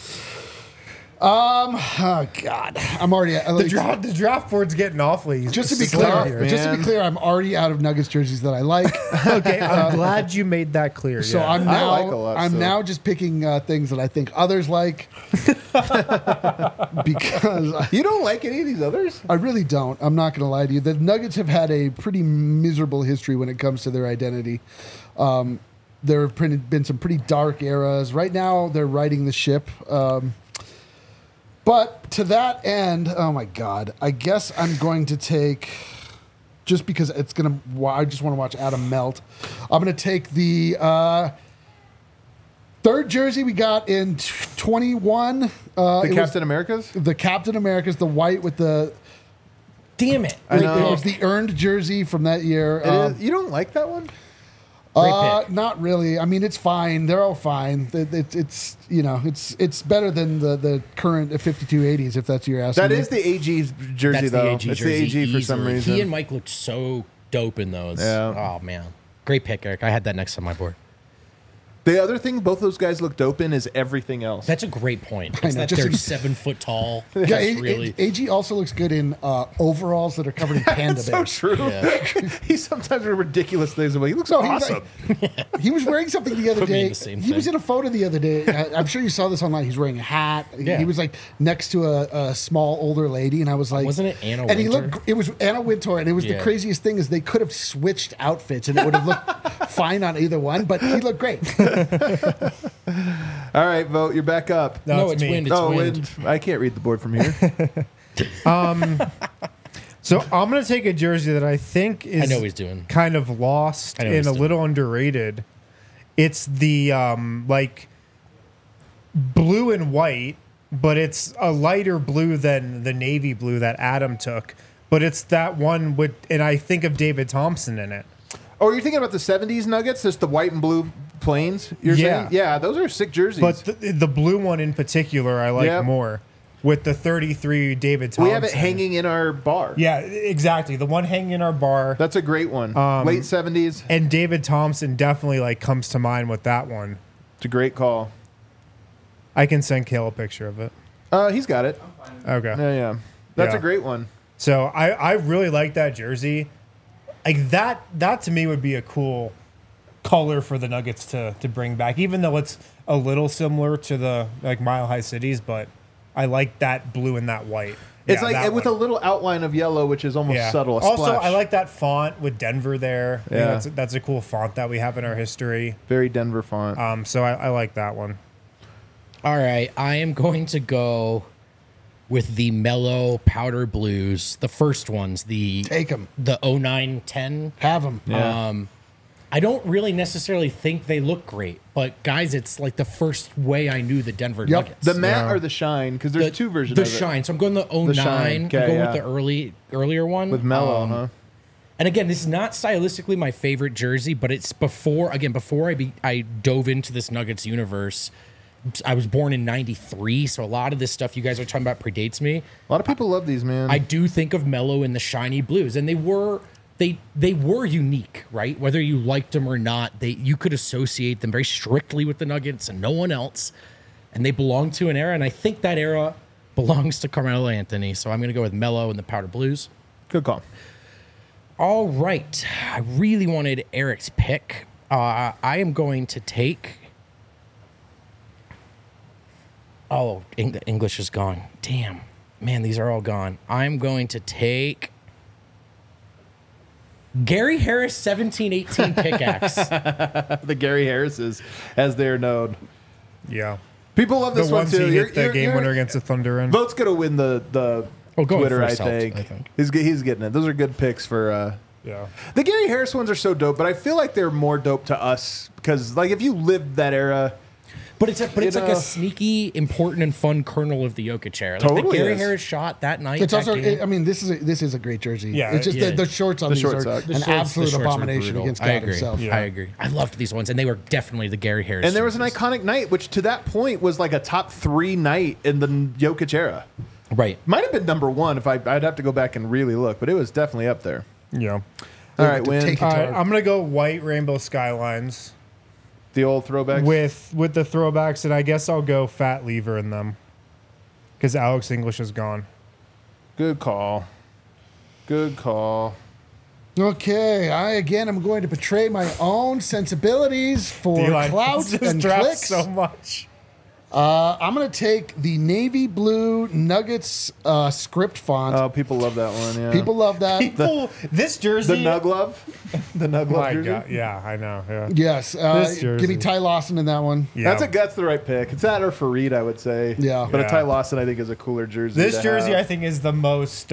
S2: Oh God, I'm already
S4: The draft board's getting awfully.
S2: Just to be
S4: slim
S2: clear,
S4: here.
S1: man.
S2: I'm already out of Nuggets jerseys that I like.
S4: Okay, I'm glad you made that clear.
S2: So
S4: yeah.
S2: I'm now
S1: I like a lot,
S2: I'm
S1: so.
S2: now just picking things that I think others like because
S1: You don't like any of these others?
S2: I really don't. I'm not going to lie to you. The Nuggets have had a pretty miserable history when it comes to their identity. There have been some pretty dark eras. Right now, they're riding the ship. But to that end, oh my God, I guess I'm going to take, just because I just want to watch Adam melt. I'm going to take the third jersey we got in 21.
S1: The Captain Americas?
S2: The Captain America's, the white with the.
S3: Damn it!
S1: I know.
S2: It was the earned jersey from that year.
S1: It is. You don't like that one?
S3: Great pick.
S2: Not really. I mean, it's fine. They're all fine. It's it's better than the current 5280s, if that's what you're asking.
S1: That
S2: me.
S1: is the AG jersey,
S3: That's
S1: though.
S3: the AG
S1: it's
S3: jersey.
S1: the AG for some
S3: easily.
S1: reason.
S3: He and Mike looked so dope in those.
S1: Yeah.
S3: Oh man, great pick, Eric. I had that next on my board.
S1: The other thing both those guys look dope in is everything else.
S3: That's a great point.
S2: I
S3: It's
S2: know,
S3: that
S2: just
S3: they're
S2: in-
S3: 7 foot tall.
S2: Yeah,
S3: That's really.
S2: AG also looks good in overalls that are covered in panda
S1: That's so
S2: bears.
S1: true.
S3: Yeah.
S1: He sometimes wears ridiculous things. I'm like, he looks
S2: No, he was
S1: awesome.
S2: He was wearing something the other
S3: Put me in
S2: day.
S3: the same
S2: He was
S3: thing.
S2: in a photo the other day. I'm sure you saw this online. He's wearing a hat.
S3: Yeah.
S2: He was like next to a small older lady, and I was like,
S3: Wasn't it Anna
S2: And he
S3: Wintour?
S2: looked. It was Anna Wintour, and it was the
S3: Yeah.
S2: craziest thing is they could have switched outfits, and it would have looked fine on either one. But he looked great.
S1: All right, Vote, you're back up.
S3: No,
S4: it's
S3: it's
S4: me.
S3: wind. It's wind.
S1: I can't read the board from here.
S4: So I'm gonna take a jersey that I think is
S3: I know he's doing.
S4: kind of lost
S3: I know
S4: and
S3: he's
S4: a
S3: doing.
S4: little underrated. It's the like blue and white, but it's a lighter blue than the navy blue that Adam took. But it's that one with, and I think of David Thompson in it.
S1: Oh, you're thinking about the 70s Nuggets? Just the white and blue planes? You're
S4: Yeah.
S1: saying? Yeah, those are sick jerseys.
S4: But the blue one in particular, I like
S1: Yep.
S4: more. With the 33 David Thompson.
S1: we have it hanging in our bar.
S4: Yeah, exactly. The one hanging in our bar.
S1: That's a great one. Late 70s.
S4: And David Thompson definitely like comes to mind with that one.
S1: It's a great call.
S4: I can send Kale a picture of it.
S1: He's got it.
S4: Okay.
S1: Yeah. That's
S4: Yeah.
S1: a great one.
S4: So I really like that jersey. Like that to me would be a cool color for the Nuggets to bring back, even though it's a little similar to the like Mile High Cities, but I like that blue and that white.
S1: It's
S4: Yeah,
S1: like
S4: that
S1: with
S4: one.
S1: a little outline of yellow, which is almost subtle. A
S4: Also,
S1: splash.
S4: I like that font with Denver there. I think
S1: Yeah.
S4: that's a cool font that we have in our history.
S1: very Denver font.
S4: So I like that one.
S3: All right, I am going to go with the mellow powder blues, the first ones,
S2: Take 'em.
S3: the 0910.
S2: Have them.
S1: Yeah.
S3: I don't really necessarily think they look great, but guys, it's like the first way I knew the Denver
S2: Yep.
S3: Nuggets.
S1: the matte or the shine? Because there's two versions.
S3: The
S1: of it.
S3: shine. So I'm going the 09.
S1: shine.
S3: I'm
S1: Okay,
S3: going
S1: yeah.
S3: with the earlier one
S1: with mellow, huh?
S3: And again, this is not stylistically my favorite jersey, but it's before I dove into this Nuggets universe. I was born in '93, so a lot of this stuff you guys are talking about predates me.
S1: A lot of people love these, man.
S3: I do think of Mellow and the shiny blues, and they were unique, right? Whether you liked them or not, you could associate them very strictly with the Nuggets and no one else, and they belong to an era, and I think that era belongs to Carmelo Anthony. So I'm going to go with Mellow and the powder blues.
S1: Good call.
S3: All right, I really wanted Eric's pick. I am going to take. Oh, English is gone. Damn. Man, these are all gone. I'm going to take Gary Harris 1718 pickaxe.
S1: The Gary Harrises, as they're known.
S4: Yeah.
S1: People love this
S4: The
S1: one
S4: ones
S1: too.
S4: he hit the game winner against the Thunder in.
S1: Vote's gonna win the
S3: going
S1: Twitter. I
S3: first helped,
S1: think.
S3: I think.
S1: He's getting it. Those are good picks for.
S4: Yeah.
S1: The Gary Harris ones are so dope, but I feel like they're more dope to us because, like, if you lived that era,
S3: But it's like
S1: know.
S3: a sneaky, important, and fun kernel of the Jokic era. Like
S1: Totally
S3: the Gary
S1: is.
S3: Harris shot that night.
S2: It's
S3: that
S2: also.
S3: game.
S2: I mean, this is a great jersey.
S4: Yeah,
S2: It's just
S3: yeah.
S2: the shorts on
S1: The
S2: these
S1: shorts
S2: are
S1: suck. The
S2: an
S3: The
S2: absolute
S3: shorts were
S2: abomination
S3: brutal.
S2: against
S3: I
S2: God
S3: agree.
S2: himself.
S4: Yeah.
S3: I agree. I loved these ones, and they were definitely the Gary Harris.
S1: and there was an
S3: jerseys.
S1: iconic night, which to that point was like a top 3 night in the Jokic era.
S3: Right.
S1: Might have been number 1 if I'd have to go back and really look, but it was definitely up there.
S4: Yeah.
S1: All right,
S2: to
S1: win
S2: take it
S4: All
S2: to
S4: right,
S2: our-
S4: I'm gonna go white rainbow skylines
S1: the old throwbacks.
S4: with the throwbacks, and I guess I'll go fat lever in them because Alex English is gone.
S1: Good call. Good call.
S2: Okay, I again am going to betray my own sensibilities for
S4: D-line
S2: clout
S4: just
S2: and
S4: dropped
S2: clicks.
S4: so much.
S2: I'm going to take the navy blue Nuggets script font.
S1: Oh, people love that one. Yeah.
S2: People love that.
S4: People, this jersey.
S1: the Nug Love, the Nug Love
S4: My
S1: jersey.
S4: God, yeah, I know. Yeah.
S2: Yes,
S4: This
S2: give me
S4: jersey.
S2: Ty Lawson in that one.
S4: Yeah.
S1: That's the right pick. It's that or Fareed, I would say.
S2: Yeah.
S1: But a
S4: Yeah.
S1: Ty Lawson, I think, is a cooler jersey.
S4: This
S1: to
S4: jersey, I
S1: have.
S4: think, is the most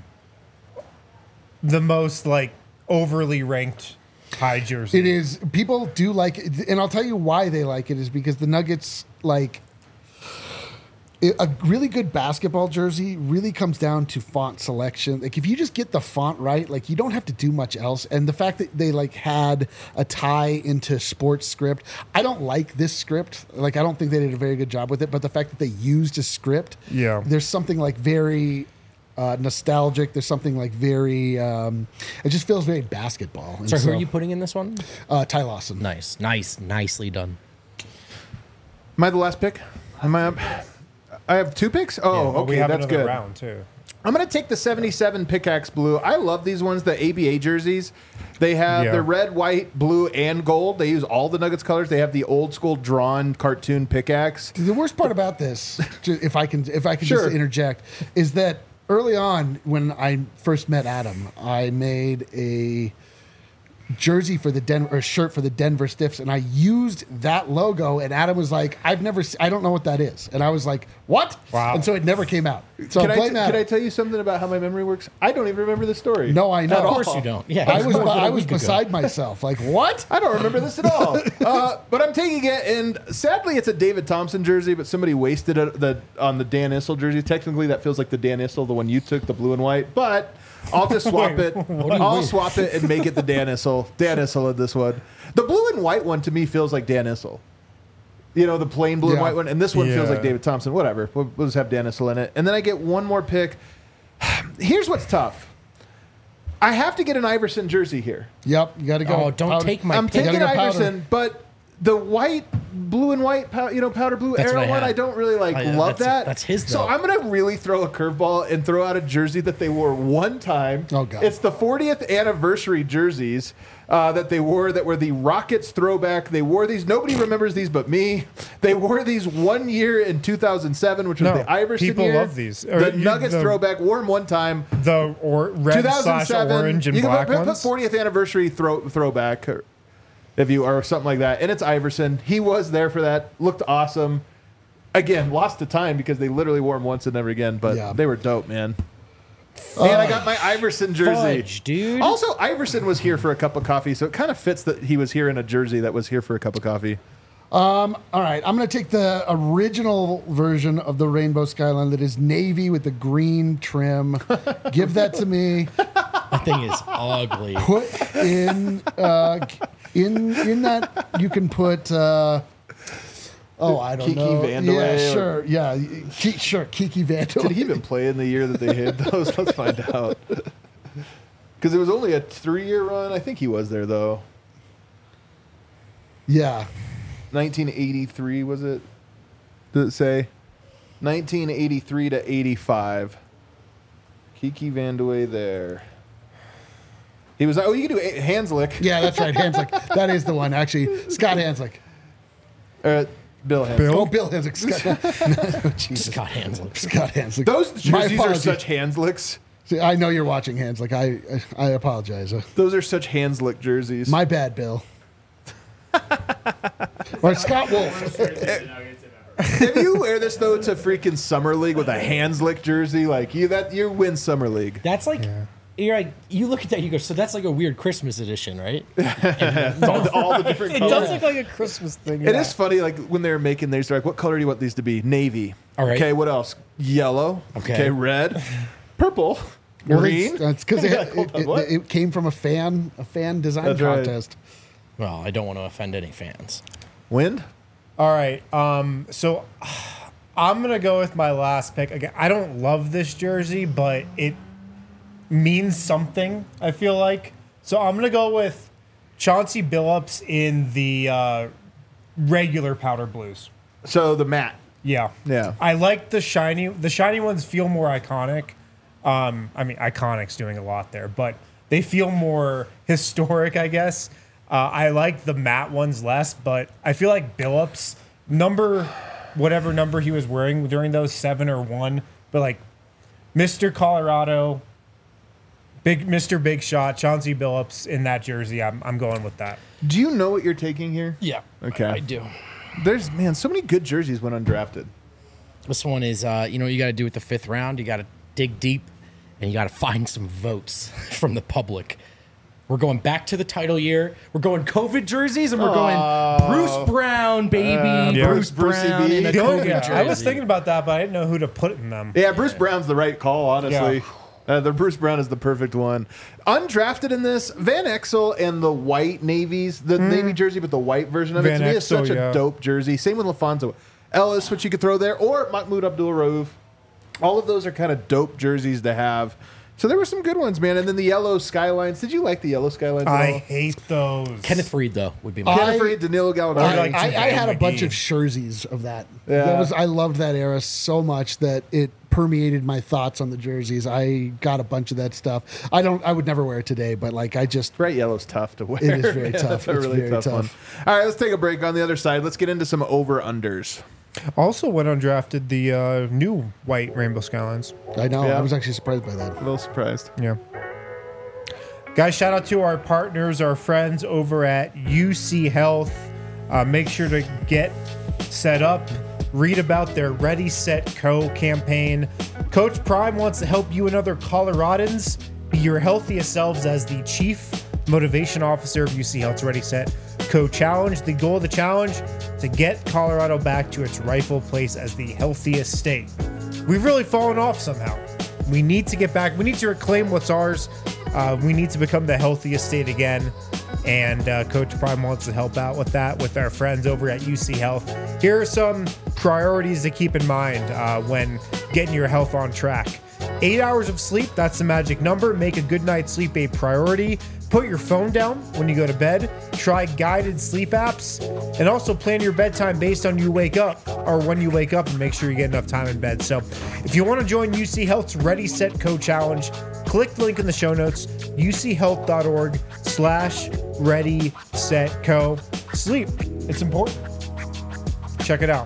S4: like overly ranked high jersey.
S2: It is. People do like it, and I'll tell you why they like it is because the Nuggets like a really good basketball jersey really comes down to font selection. Like if you just get the font right, like you don't have to do much else. And the fact that they like had a tie into sports script, I don't like this script. Like I don't think they did a very good job with it. But the fact that they used a script,
S4: Yeah.
S2: there's something like very nostalgic. There's something like very. It just feels very basketball. And
S3: So who are you putting in this one?
S2: Ty Lawson.
S3: Nicely done.
S1: Am I the last pick? Am I up? I have 2 picks? Oh,
S4: But
S1: okay,
S4: we have
S1: that's
S4: another
S1: good.
S4: round too.
S1: I'm going to take the 77 Pickaxe Blue. I love these ones, the ABA jerseys. They have
S4: Yeah.
S1: the red, white, blue, and gold. They use all the Nuggets colors. They have the old school drawn cartoon pickaxe.
S2: The worst part about this, if I can
S1: Sure.
S2: just interject, is that early on when I first met Adam, I made a jersey for the Denver, or shirt for the Denver Stiffs, and I used that logo. And Adam was like, I don't know what that is," and I was like, "What?"
S4: Wow.
S2: And so it never came out. So
S1: Can
S2: blame
S1: I
S2: Adam.
S1: tell you something about how my memory works? I don't even remember the story.
S2: No, I know.
S1: At
S3: Of course
S1: all.
S3: you don't. Yeah,
S2: I was
S3: born a
S2: I was
S3: week ago.
S2: beside myself. Like what?
S1: I don't remember this at all. But I'm taking it, and sadly, it's a David Thompson jersey. But somebody wasted it on the Dan Issel jersey. Technically, that feels like the Dan Issel, the one you took, the blue and white. But I'll just swap it. I'll swap it and make it the Dan Issel. Dan Issel in this one. The blue and white one to me feels like Dan Issel. You know, the plain blue and
S2: Yeah.
S1: white one, and this one feels
S4: Yeah.
S1: like David Thompson. Whatever. We'll just have Dan Issel in it, and then I get one more pick. Here's what's tough. I have to get an Iverson jersey here.
S2: Yep, you got to go.
S3: Oh, don't take my
S1: I'm
S3: pick.
S1: taking
S2: gotta go powder.
S1: Iverson, but the white blue and white, powder blue
S3: That's what
S1: arrow
S3: I
S1: one.
S3: had.
S1: I don't really love that.
S3: That's his,
S1: So
S3: though.
S1: I'm gonna really throw a curveball and throw out a jersey that they wore one time.
S2: Oh, God.
S1: It's the 40th anniversary jerseys that they wore that were the Rockets throwback. They wore these. Nobody remembers these but me. They wore these 1 year in 2007, which was
S4: No,
S1: the Iverson
S4: people
S1: year.
S4: love these.
S1: The Nuggets throwback wore them one time.
S4: The red slash
S1: 2007.
S4: orange and
S1: you
S4: black
S1: can put
S4: ones.
S1: 40th anniversary throwback, or something like that, and it's Iverson. He was there for that. Looked awesome. Again, lost to time because they literally wore them once and never again. But
S2: Yeah.
S1: they were dope, man. And I got my Iverson jersey.
S3: Fudge, dude.
S1: Also, Iverson was here for a cup of coffee, so it kind of fits that he was here in a jersey that was here for a cup of coffee.
S2: All right, I'm going to take the original version of the Rainbow Skyline that is navy with the green trim. Give that to me.
S3: That thing is ugly.
S2: Put in that you can put. I don't
S1: Kiki
S2: know.
S1: Vandeweghe
S2: Yeah,
S1: or-
S2: sure. Yeah, sure. Kiki Vandeweghe.
S1: Did he even play in the year that they hit those? Let's find out. Because it was only a 3-year run. I think he was there, though.
S2: Yeah.
S1: 1983, was it? Did it say? 1983 to 85. Kiki Vandeweghe there. He was, you can do Hanslick.
S2: Yeah, that's right. Hanslick. That is the one, actually. Scott Hanslick.
S1: Bill Hanslick.
S2: Oh, Bill Hanslick. Scott. Jesus.
S3: Scott Hanslick.
S2: Scott Hanslick.
S1: Those
S2: My
S1: jerseys are
S2: apologies.
S1: such Hanslicks.
S2: See, I know you're watching Hanslick. I apologize.
S1: Those are such Hanslick jerseys.
S2: My bad, Bill. Or Scott Wolf.
S1: If you wear this though to freaking Summer League with a Hanslick jersey, like you win Summer League.
S3: That's like, you're like, you look at that, you go, so that's like a weird Christmas edition, right?
S1: all the different
S4: It
S1: colors.
S4: does look like a Christmas thing.
S1: It is funny, like when they're making these, they're like, what color do you want these to be? Navy.
S3: All right.
S1: Okay, what else? Yellow.
S3: Okay.
S1: Red. Purple. Green.
S2: That's because
S1: Hold on, what?
S2: it came from a fan design
S1: That's right.
S2: contest.
S3: Well, I don't want to offend any fans.
S1: Wind.
S4: All right. So I'm gonna go with my last pick. Again, I don't love this jersey, but it means something, I feel like. So I'm gonna go with Chauncey Billups in the regular powder blues.
S1: So the matte.
S4: Yeah.
S1: Yeah.
S4: I like the shiny. The shiny ones feel more iconic. I mean, iconic's doing a lot there, but they feel more historic, I guess. I like the matte ones less, but I feel like Billups whatever number he was wearing during those 7 or 1, but like Mr. Colorado, Mr. Big Shot, Chauncey Billups in that jersey. I'm going with that.
S1: Do you know what you're taking here?
S3: Yeah.
S1: Okay.
S3: I do.
S1: There's so many good jerseys went undrafted.
S3: This one is, you know what you got to do with the 5th round? You got to dig deep and you got to find some votes from the public. We're going back to the title year. We're going COVID jerseys, and we're going Bruce Brown, baby.
S4: Yeah.
S3: Bruce
S1: Brucey
S3: Brown
S1: B.
S3: in a
S1: The
S3: COVID
S1: only-
S3: jersey.
S4: I was thinking about that, but I didn't know who to put in them.
S1: Yeah, Bruce Brown's the right call, honestly. The Bruce Brown is the perfect one. Undrafted in this, Van Exel and the white navies, the navy jersey, but the white version of it,
S4: Van
S1: to me is
S4: Exel,
S1: such
S4: yeah.
S1: a dope jersey. Same with LaFonso Ellis, which you could throw there, or Mahmoud Abdul-Rauf. All of those are kind of dope jerseys to have. So there were some good ones, man. And then the yellow skylines. Did you like the yellow skylines at
S4: I
S1: all?
S4: hate those.
S3: Kenneth Reed, though, would be my
S1: Kenneth Reed, Danilo Gallinari.
S4: like
S2: I had a
S4: McGee.
S2: bunch of jerseys of that.
S1: Yeah.
S2: I loved that era so much that it permeated my thoughts on the jerseys. I got a bunch of that stuff. I would never wear it today, but like I just
S1: Bright yellow's tough to wear.
S2: It is very
S1: Yeah,
S2: tough.
S1: That's a
S2: It's
S1: really
S2: very
S1: tough
S2: tough.
S1: one. All right, let's take a break on the other side. Let's get into some over-unders.
S4: Also went undrafted the new white Rainbow Skylines.
S2: I know.
S1: Yeah.
S2: I was actually surprised by that.
S1: A little surprised.
S4: Yeah. Guys, shout out to our partners, our friends over at UC Health. Make sure to get set up, read about their Ready, Set, Co campaign. Coach Prime wants to help you and other Coloradans be your healthiest selves as the Chief Motivation Officer of UC Health's Ready, Set, Co challenge. The goal of the challenge, to get Colorado back to its rightful place as the healthiest state. We've really fallen off somehow. We need to get back. We need to reclaim what's ours. We need to become the healthiest state again. And Coach Prime wants to help out with that with our friends over at UC Health. Here are some priorities to keep in mind when getting your health on track. 8 hours of sleep, that's the magic number. Make a good night's sleep a priority. Put your phone down when you go to bed. Try guided sleep apps, and also plan your bedtime based on you wake up or when you wake up, and make sure you get enough time in bed. So, if you want to join UC Health's Ready Set Co Challenge, click the link in the show notes. uchealth.org/Ready Set Co. Sleep. It's important. Check it out.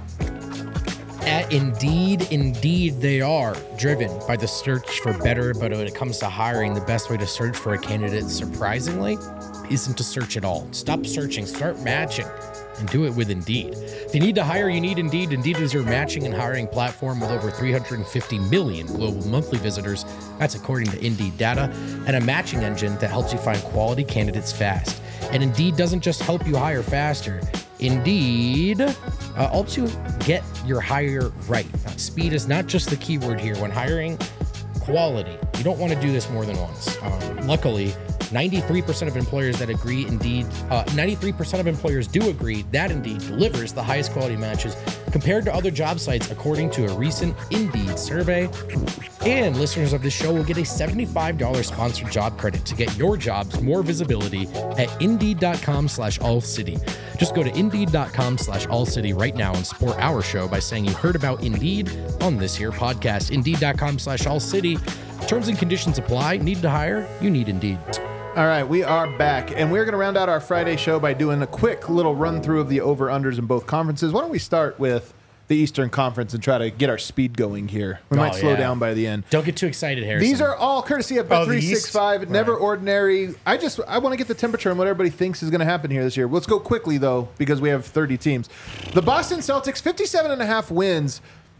S3: At Indeed, they are driven by the search for better, but when it comes to hiring, the best way to search for a candidate, surprisingly, isn't to search at all. Stop searching, start matching, and do it with Indeed. If you need to hire, you need Indeed. Indeed is your matching and hiring platform with over 350 million global monthly visitors. That's according to Indeed data, and a matching engine that helps you find quality candidates fast. And Indeed doesn't just help you hire faster. Indeed helps you get your hire right. Now, speed is not just the key word here. When hiring, quality. You don't want to do this more than once. Luckily, 93% of employers that agree Indeed, 93% of employers do agree that Indeed delivers the highest quality matches compared to other job sites, according to a recent Indeed survey. And listeners of this show will get a $75 sponsored job credit to get your jobs more visibility at Indeed.com/AllCity. Just go to Indeed.com/AllCity right now and support our show by saying you heard about Indeed on this here podcast. Indeed.com/AllCity. Terms and conditions apply. Need to hire? You need Indeed.
S1: All right, we are back, and we're going to round out our Friday show by doing a quick little run-through of the over-unders in both conferences. Why don't we start with the Eastern Conference and try to get our speed going here? We might slow down by the end.
S3: Don't get too excited, Harrison.
S1: These are all courtesy of Bet365. Never ordinary. I want to get the temperature on what everybody thinks is going to happen here this year. Let's go quickly, though, because we have 30 teams. The Boston Celtics, 57.5 wins.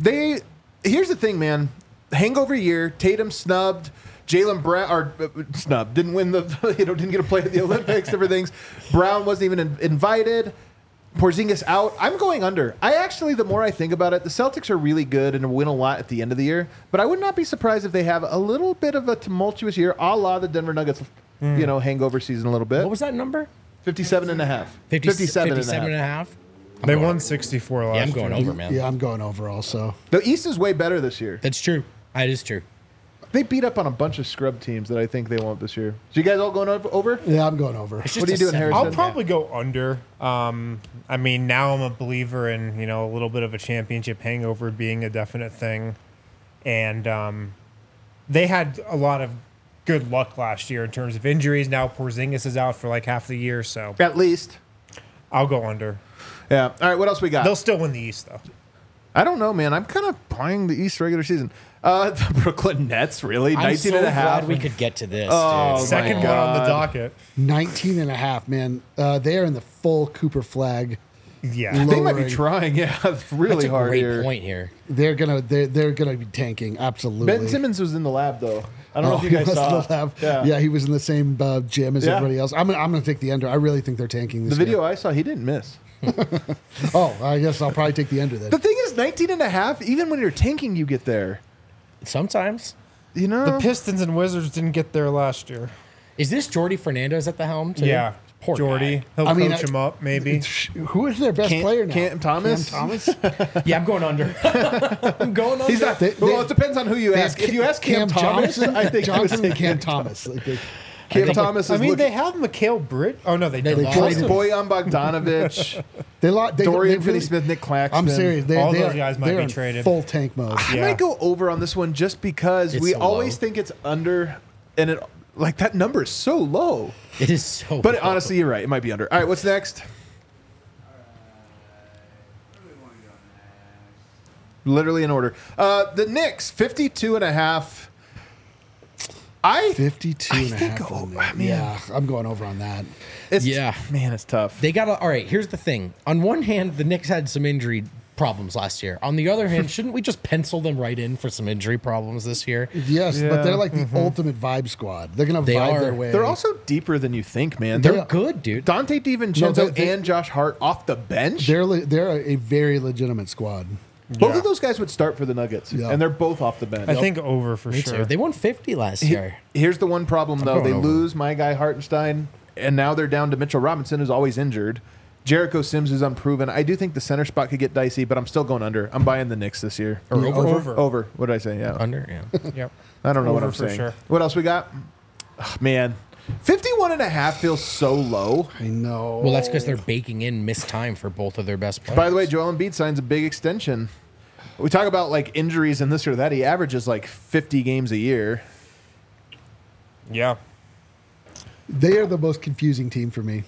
S1: Here's the thing, man. Hangover year. Tatum snubbed. Jaylen Brown, snubbed, didn't win didn't get a play at the Olympics, different things. Brown wasn't even invited. Porzingis out. I'm going under. The more I think about it, the Celtics are really good and win a lot at the end of the year, but I would not be surprised if they have a little bit of a tumultuous year, a la the Denver Nuggets, hangover season a little bit.
S3: What was that number?
S1: 57.5.
S3: 57.5?
S4: They won 64 last year.
S3: Yeah, I'm going over, man.
S2: Yeah, I'm going over also.
S1: The East is way better this year.
S3: That's true. That is true.
S1: They beat up on a bunch of scrub teams that I think they won't this year. So you guys all going over?
S2: Yeah, I'm going over.
S1: What are you doing, Harrison?
S4: I'll probably go under. Now I'm a believer in, a little bit of a championship hangover being a definite thing. And they had a lot of good luck last year in terms of injuries. Now Porzingis is out for like half the year, so
S1: At least.
S4: I'll go under.
S1: Yeah. All right, what else we got?
S4: They'll still win the East, though.
S1: I don't know, man. I'm kind of buying the East regular season. The Brooklyn Nets, really?
S3: I'm
S1: 19
S3: so
S1: and a half.
S3: glad we could get to this,
S1: Oh,
S3: dude.
S4: Second one on the docket.
S2: 19 and a half, man. They are in the full Cooper flag.
S4: Yeah.
S1: They might be
S2: lowering.
S1: trying. Yeah, it's really
S3: That's a
S1: hard
S3: great
S1: here.
S3: point here.
S2: They're gonna be tanking. Absolutely.
S1: Ben Simmons was in the lab, though. I don't know if you guys
S2: he was
S1: saw.
S2: in the lab. Yeah, he was in the same gym as
S1: Yeah.
S2: everybody else. I'm gonna take the under. I really think they're tanking this
S1: The video
S2: year.
S1: I saw, he didn't miss.
S2: Oh, I guess I'll probably take the under then.
S1: The thing is, 19 and a half, even when you're tanking, you get there.
S3: Sometimes.
S1: You know?
S4: The Pistons and Wizards didn't get there last year.
S3: Is this Jordy Fernandez at the helm, too?
S4: Yeah.
S3: Poor
S4: Jordy.
S3: guy.
S4: He'll
S2: I mean,
S4: coach him up, maybe.
S2: Who is their best player now?
S1: Cam Thomas?
S2: Cam Thomas?
S3: Yeah, I'm going under. I'm going under.
S1: He's not. Well, it depends on who you ask. If you ask Cam Thomas,
S2: Johnson,
S1: I think
S2: Johnson
S1: you would
S2: and
S1: say
S2: Cam Thomas.
S1: Cam Thomas
S4: I
S1: is
S4: mean, they
S1: looking.
S4: have Mikhail Britt. Oh, no, they
S3: They
S4: don't.
S3: lost him.
S1: Boyan Bogdanovich,
S2: They
S1: Dorian
S2: really-
S1: Finney-Smith, Nick Claxton.
S2: I'm serious.
S4: All
S2: They
S4: those
S2: are-
S4: guys might
S2: they're
S4: be
S2: in
S4: traded.
S2: Full tank mode.
S1: I
S4: Yeah.
S1: might go over on this one just because
S3: It's
S1: we
S3: so
S1: always
S3: low.
S1: think it's under, and it like that number is so low.
S3: It is so
S1: But
S3: low.
S1: honestly, you're right. It might be under. All right, what's next? Literally in order. The Knicks, 52 and a half.
S2: 52 and a
S1: think
S2: half. on
S1: over-
S2: there.
S1: man.
S2: Yeah, I'm going over on that.
S1: It's,
S3: Yeah.
S1: Man, it's tough.
S3: They got to. All right, here's the thing. On one hand, the Knicks had some injury problems last year. On the other hand, shouldn't we just pencil them right in for some injury problems this year?
S2: Yes, but they're like the ultimate vibe squad. They're going to
S3: They
S2: vibe
S3: are.
S2: their way.
S1: They're also deeper than you think, man.
S3: They're
S2: Yeah.
S3: good, dude.
S1: Dante DiVincenzo
S2: No, they-
S1: and Josh Hart off the bench.
S2: They're a very legitimate squad.
S1: Both
S4: Yeah.
S1: of those guys would start for the Nuggets,
S2: Yeah.
S1: and they're both off the bench.
S4: I think over for
S3: Me
S4: sure.
S3: too. They won 50 last year.
S1: Here's the one problem, though.
S3: going
S1: They
S3: over.
S1: lose my guy Hartenstein, and now they're down to Mitchell Robinson, who's always injured. Jericho Sims is unproven. I do think the center spot could get dicey, but I'm still going under. I'm buying the Knicks this year.
S3: Or over.
S4: Over.
S1: Over. What did I say? Yeah.
S3: Under, yeah.
S4: Yep.
S1: I don't know what
S4: Over
S1: I'm
S4: for
S1: saying.
S4: sure.
S1: What else we got? Ugh, man, 51.5 feels so low.
S2: I know.
S3: Well, that's because they're baking in missed time for both of their best players.
S1: By the way, Joel Embiid signs a big extension. We talk about like injuries and this or that. He averages like 50 games a year.
S4: Yeah.
S2: They are the most confusing team for me.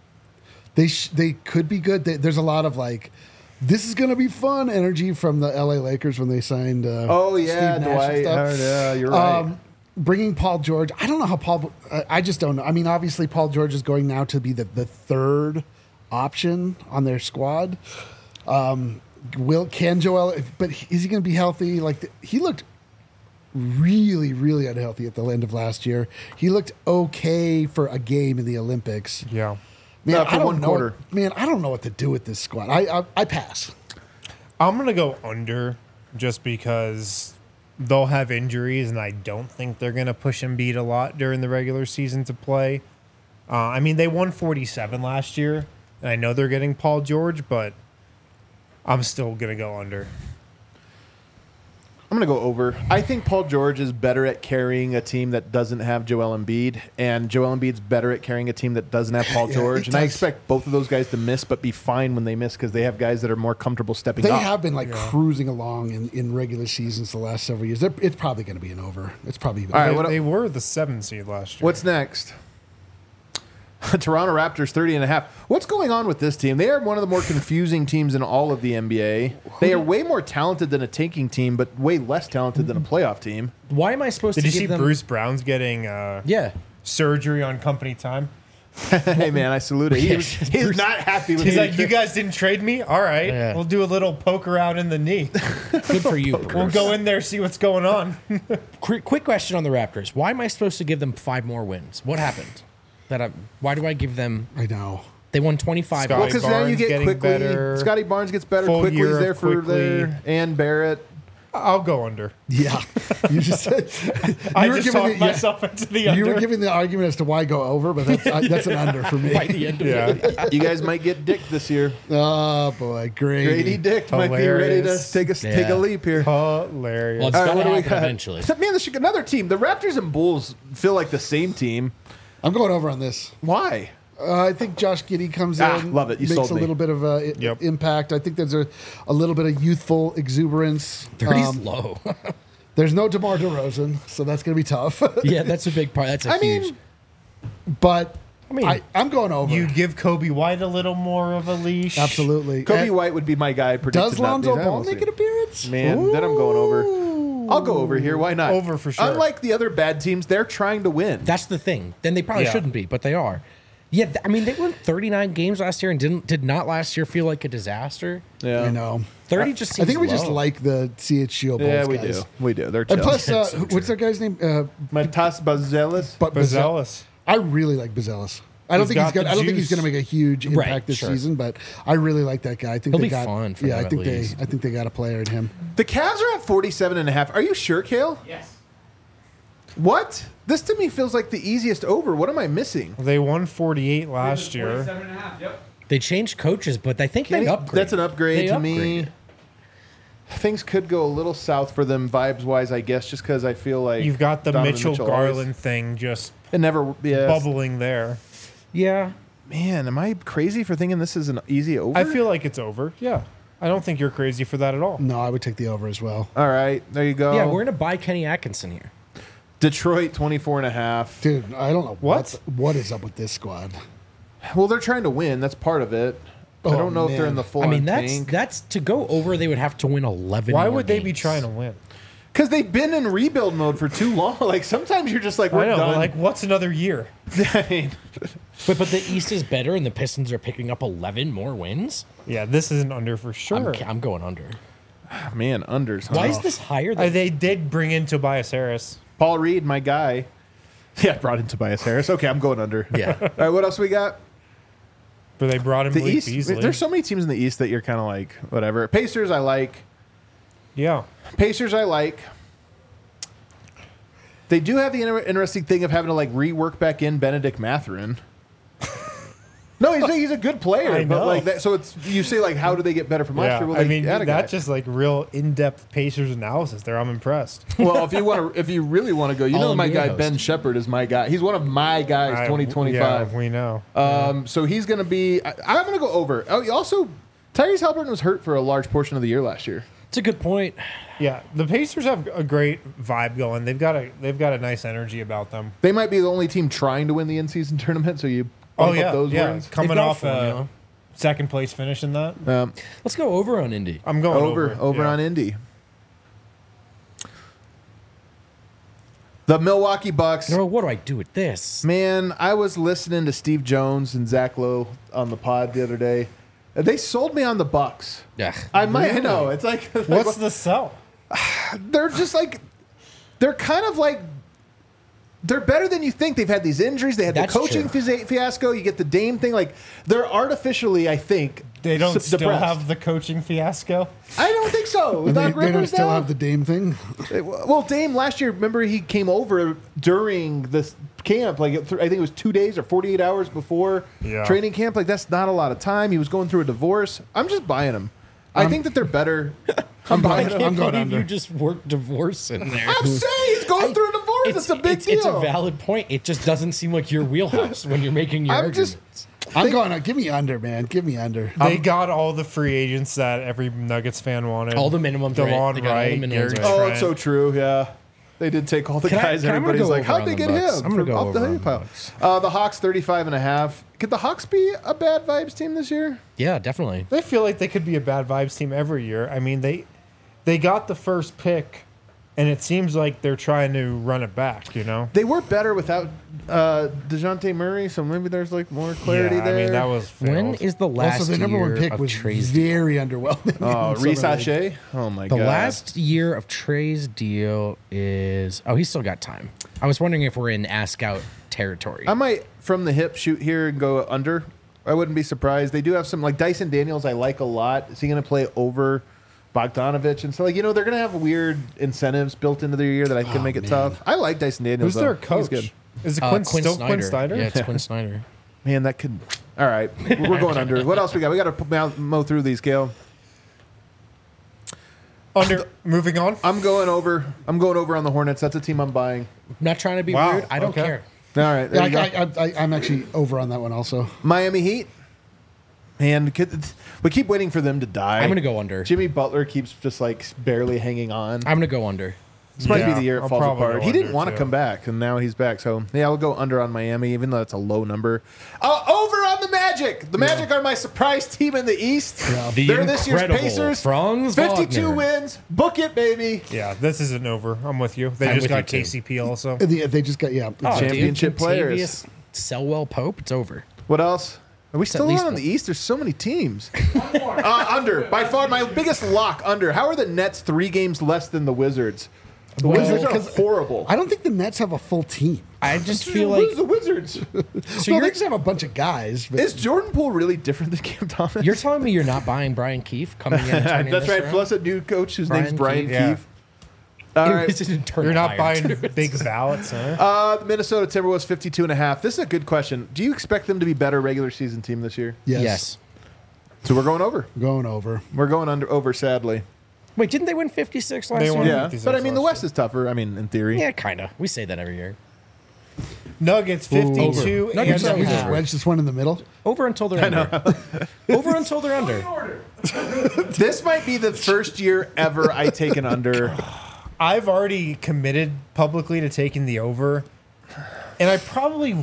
S2: They could be good. There's a lot of like, this is going to be fun energy from the LA Lakers when they signed.
S1: Oh yeah,
S2: Steve Nash and
S1: Dwight.
S2: stuff.
S1: Howard, yeah, you're right.
S2: Bringing Paul George. I don't know how Paul. I just don't know. I mean, obviously Paul George is going now to be the third option on their squad. Can Joel? But is he going to be healthy? Like he looked really, really unhealthy at the end of last year. He looked okay for a game in the Olympics.
S4: Yeah.
S2: Man,
S1: Not for
S2: I don't
S1: one
S2: know.
S1: quarter.
S2: Man, I don't know what to do with this squad. I pass.
S4: I'm going to go under just because they'll have injuries, and I don't think they're going to push Embiid a lot during the regular season to play. I mean, they won 47 last year, and I know they're getting Paul George, but I'm still going to go under.
S1: I'm going to go over. I think Paul George is better at carrying a team that doesn't have Joel Embiid, and Joel Embiid's better at carrying a team that doesn't have Paul
S2: Yeah,
S1: George.
S2: it
S1: And I
S2: does.
S1: expect both of those guys to miss, but be fine when they miss because they have guys that are more comfortable stepping
S2: They
S1: up.
S2: have been like cruising along in regular seasons the last several years. It's probably going to be an over. It's probably.
S1: All right,
S4: They,
S1: what-
S4: they were the 7th seed last year.
S1: What's next? Toronto Raptors 30.5. What's going on with this team? They are one of the more confusing teams in all of the NBA. They are way more talented than a tanking team, but way less talented than a playoff team.
S3: Why am I supposed
S4: Did
S3: to
S4: you
S3: give
S4: see
S3: them?
S4: Bruce Brown's getting
S3: Yeah.
S4: surgery on company time?
S1: Hey man, I salute it. He's not happy with
S4: He's
S1: me.
S4: like, you guys didn't trade me? All right.
S3: Yeah.
S4: We'll do a little poke around in the knee.
S3: Good for you, Bruce.
S4: We'll go in there, see what's going on.
S3: Quick question on the Raptors. Why am I supposed to give them 5 more wins? What happened? Why do I give them?
S2: I know.
S3: They won 25.
S4: Scotty
S1: Well, because now you
S4: Barnes
S1: get
S4: getting
S1: quickly.
S4: better.
S1: Scotty Barnes gets better.
S4: Full
S1: Quickly's
S4: year of
S1: there for
S4: Quickly.
S1: there. And Barrett.
S4: I'll go under.
S2: Yeah, you just said
S4: I
S2: you were
S4: just
S2: giving
S4: talked
S2: the-
S4: myself into the
S2: You
S4: under.
S2: were giving the argument as to why go over, but that's an under for me.
S3: By the end of it.
S4: yeah.
S1: You guys might get dicked this year.
S2: Oh boy,
S1: Grady
S2: Grady.
S1: Dick might be ready to
S4: Hilarious.
S1: take a
S3: Yeah.
S1: leap here.
S4: Hilarious.
S3: Well, it's
S1: All right,
S3: gonna
S1: what do we
S3: happen
S1: got?
S3: eventually.
S1: Man, this should, another team. The Raptors and Bulls feel like the same team.
S2: I'm going over on this.
S1: Why?
S2: I think Josh Giddey comes
S1: Ah,
S2: in,
S1: love it. You
S2: makes
S1: sold
S2: a
S1: me.
S2: little bit of
S4: Yep.
S2: impact. I think there's a little bit of youthful exuberance.
S3: 30's low.
S2: There's no DeMar DeRozan, so that's going to be tough.
S3: Yeah, that's a big part. That's a
S1: I
S3: huge.
S1: mean,
S2: But
S3: I mean,
S2: I'm going over.
S4: You give Kobe White a little more of a leash.
S2: Absolutely.
S1: Kobe
S2: And
S1: White would be my guy. Predicted
S2: does
S1: not
S2: Lonzo
S1: these. I
S2: Ball
S1: won't
S2: make
S1: see
S2: an appearance?
S1: Man, then I'm going over. I'll go over here. Why not?
S4: Over for sure.
S1: Unlike the other bad teams, they're trying to win.
S3: that's the thing. Then they probably
S4: Yeah.
S3: shouldn't be, but they are. Yeah, I mean, they won 39 games last year and did not last year feel like a disaster.
S1: yeah,
S2: I know.
S3: 30 just
S2: I
S3: seems
S2: think we just
S3: low.
S2: like the CHGO Bulls
S1: Yeah, we
S2: guys.
S1: do. We do. They're
S2: And
S1: chill.
S2: plus,
S3: That's so
S2: what's that guy's name?
S1: Matas Bazelis.
S2: But
S4: Bazelis.
S2: I really like Bazelis. I don't
S4: He's
S2: think he's
S4: got
S2: gonna.
S4: the
S2: I don't think he's
S4: juice.
S2: gonna make a huge
S3: Right,
S2: impact this
S3: sure.
S2: season, but I really like that guy. I think
S3: He'll
S2: they
S3: be
S2: got
S3: fun for
S2: yeah.
S3: them
S2: I think
S3: at least.
S2: they got a player in him.
S1: The Cavs are at 47.5. Are you sure, Kale?
S5: Yes.
S1: What? This to me feels like the easiest over. What am I missing?
S4: They won 48 last year.
S5: 47.5. Yep.
S3: They changed coaches, but I think they upgraded.
S1: That's an upgrade
S3: They
S1: to me.
S3: upgraded.
S1: Things could go a little south for them vibes wise, I guess, just because I feel like
S4: You've got the
S1: Donovan
S4: Mitchell
S1: always-
S4: Garland thing just
S1: It never. Yeah.
S4: bubbling there.
S3: Yeah.
S1: Man, am I crazy for thinking this is an easy over?
S4: I feel like it's over. Yeah. I don't think you're crazy for that at all.
S2: No, I would take the over as well,
S1: All right, there you go.
S3: Yeah, we're going to buy Kenny Atkinson here.
S1: Detroit 24.5.
S2: dude. I don't know
S4: What?
S2: what is up with this squad.
S1: Well, they're trying to win. That's part of it. I
S2: Oh,
S1: don't know if they're
S2: man.
S1: in the full.
S3: I mean,
S1: tank.
S3: that's to go over, they would have to win 11
S4: Why
S3: more
S4: would they be
S3: games.
S4: trying to win?
S1: Because they've been in rebuild mode for too long. Like sometimes you're just like, we're
S4: I know,
S1: done.
S4: but like, what's another year?
S1: I mean,
S3: But the East is better, and the Pistons are picking up 11 more wins.
S4: Yeah, this is an under for sure.
S3: I'm going under.
S1: man, unders. Huh?
S3: Why is this higher than
S4: They did bring in Tobias Harris.
S1: Paul Reed, my guy? Yeah, brought in Tobias Harris. Okay, I'm going under.
S3: Yeah.
S1: All right, what else we got?
S4: But they brought in
S1: The
S4: Malik
S1: East.
S4: Beasley.
S1: There's so many teams in the East that you're kind of like, whatever. Pacers, I like.
S4: Yeah.
S1: Pacers, I like. They do have the interesting thing of having to like rework back in Benedict Mathurin. No, he's a good player,
S4: I
S1: but
S4: know.
S1: like that. So it's you say like, how do they get better from last year? Well,
S4: I
S1: they
S4: mean,
S1: had a guy.
S4: that's just like real in-depth Pacers analysis there. I'm impressed.
S1: Well, if you really want to go, you
S3: All
S1: know,
S3: in
S1: my
S3: the
S1: guy
S3: in-house.
S1: Ben Shepherd is my guy. He's one of my guys. 2025.
S4: Yeah, we know.
S1: So he's going to be. I'm going to go over. Oh, also, Tyrese Halliburton was hurt for a large portion of the year last year.
S3: It's a good point.
S4: Yeah, the Pacers have a great vibe going. They've got a nice energy about them.
S1: They might be the only team trying to win the in-season tournament. So you bump up those wins.
S4: Coming
S3: They've got
S4: off
S3: formula.
S4: second place finish in that.
S3: Let's go over on Indy.
S4: I'm going
S1: Over
S4: yeah.
S1: on Indy. The Milwaukee Bucks.
S3: No, what do I do with this?
S1: Man, I was listening to Steve Jones and Zach Lowe on the pod the other day. They sold me on the Bucks.
S3: Yeah.
S1: I know. It's like
S4: What's the sell?
S1: they're just like they're kind of like they're better than you think. They've had these injuries. They had
S3: That's
S1: the coaching
S3: true.
S1: fiasco. You get the Dame thing. Like they're artificially, I think,
S4: They don't still
S1: depressed.
S4: have the coaching fiasco.
S1: I don't think so. With
S2: They,
S1: Doc
S2: they don't
S1: Rivers
S2: still
S1: now?
S2: have the Dame thing.
S1: Well, Dame last year, remember he came over during this camp, like I think it was 2 days or 48 hours before training camp. Like that's not a lot of time. He was going through a divorce. I'm just buying him. I think that they're better.
S2: I'm
S3: I
S2: going,
S3: can't
S2: I'm going
S3: believe
S2: under.
S3: you just worked divorce in there.
S1: I'm saying he's going through a divorce. It's a big deal.
S3: It's a valid point. It just doesn't seem like your wheelhouse when you're making your
S1: I'm
S3: arguments.
S1: just-
S2: I'm going. Give me under, man. Give me under.
S4: They got all the free agents that every Nuggets fan wanted.
S3: all the minimums,
S4: DeLon
S3: right? They got all the
S4: Wright,
S3: minimums,
S4: Gary
S3: right?
S1: Oh,
S4: Trent.
S1: it's so true. Yeah. They did take all the
S3: Can I-
S1: guys.
S3: can I- I'm gonna
S1: Everybody's
S3: go
S1: like,
S3: over
S1: how'd
S3: on
S1: they
S3: the
S1: get
S3: Bucks.
S1: him?
S3: I'm gonna
S1: from
S3: go
S1: off the
S3: over on
S1: hay
S3: the
S1: pile?
S3: Bucks.
S1: The Hawks 35.5. Could the Hawks be a bad vibes team this year?
S3: Yeah, definitely.
S4: They feel like they could be a bad vibes team every year. I mean, they got the first pick, and it seems like they're trying to run it back. You know.
S1: They were better without DeJounte Murray, so maybe there's like more clarity
S4: yeah,
S1: there.
S4: I mean, that was
S3: When
S4: failed.
S3: is the last
S2: Also, their number one
S3: year
S2: pick
S3: of
S2: was
S3: Trey's
S2: very underwhelming.
S1: Oh,
S2: in
S1: Reese
S2: summer league.
S1: Hache? Oh my
S3: The
S1: god.
S3: last year of Trey's deal is he's still got time. I was wondering if we're in ask out territory.
S1: I might from the hip shoot here and go under. I wouldn't be surprised. They do have some like Dyson Daniels I like a lot. Is he going to play over Bogdanovich? And so like, they're going to have weird incentives built into their year that I can make it tough. I like Dyson Daniels.
S4: Who's their
S1: though.
S4: coach?
S1: He's good.
S4: Is it Quinn Snyder?
S3: Yeah, it's Quinn Snyder.
S1: Man, that could. All right, we're going under. What else we got? We got to mow through these, Gale.
S4: Moving on.
S1: I'm going over. I'm going over on the Hornets. That's a team I'm buying.
S3: I'm not trying to be
S4: Wow,
S3: weird. I don't
S4: okay.
S3: care.
S1: All right, there
S2: Yeah,
S1: you go.
S2: I'm actually over on that one also.
S1: Miami Heat. Man, we keep waiting for them to die.
S3: I'm gonna go under.
S1: Jimmy Butler keeps just like barely hanging on.
S3: I'm gonna go under.
S1: This might be
S4: Yeah,
S1: the year it
S4: I'll
S1: falls
S4: probably
S1: apart.
S4: go
S1: He didn't
S4: under,
S1: want to
S4: too.
S1: come back, and now he's back. So yeah, I'll go under on Miami, even though it's a low number. Over on the Magic. The Magic are my surprise team in the East.
S3: The
S1: They're this year's
S3: incredible
S1: Pacers.
S3: Franz
S1: 52
S3: Wagner.
S1: wins. Book it, baby.
S4: Yeah, this isn't over. I'm with you. They
S3: I'm
S4: just
S3: with
S4: got
S3: you, too.
S4: KCP also.
S2: They just got
S3: Oh,
S1: Championship
S3: dude,
S1: players.
S3: Contavious Selwell Pope. It's over.
S1: What else? Are we
S3: at
S1: still
S3: least
S1: on the
S3: one.
S1: East? There's so many teams. Under. By far, my biggest lock under. How are the Nets 3 games less than the Wizards? The Wizards are
S2: 'cause
S1: horrible.
S2: I don't think the Nets have a full team.
S3: I just feel like
S1: Who's the Wizards?
S3: so
S2: Well,
S3: you're,
S2: they just have a bunch of guys. But
S1: Is Jordan Poole really different than Cam Thomas?
S3: you're telling me you're not buying Brian Keefe coming in. And turning
S1: That's
S3: this
S1: right.
S3: around?
S1: Plus a new coach whose name's
S3: Brian
S1: Brian
S3: Keefe.
S1: Keefe. All
S3: It
S1: right.
S3: was an internal
S4: You're not
S3: hire,
S4: buying
S3: too.
S4: big ballots, huh?
S1: The Minnesota Timberwolves 52.5. This is a good question. Do you expect them to be better regular season team this year?
S2: yes,
S1: So we're going over.
S2: going over.
S1: We're going over, sadly.
S3: Wait, didn't they win 56 last
S4: They
S3: year?
S4: won.
S1: Yeah.
S4: 56
S1: But I mean, the
S4: last
S1: West is tougher. I mean, in theory.
S3: Yeah, kind of. We say that every year.
S4: Nuggets 52
S3: Nuggets
S4: and
S3: are
S2: We
S4: a
S2: just
S4: half.
S2: wedged this one in the middle.
S3: Over until they're under. Over until they're under.
S1: This might be the first year ever I take an under.
S4: I've already committed publicly to taking the over, and I probably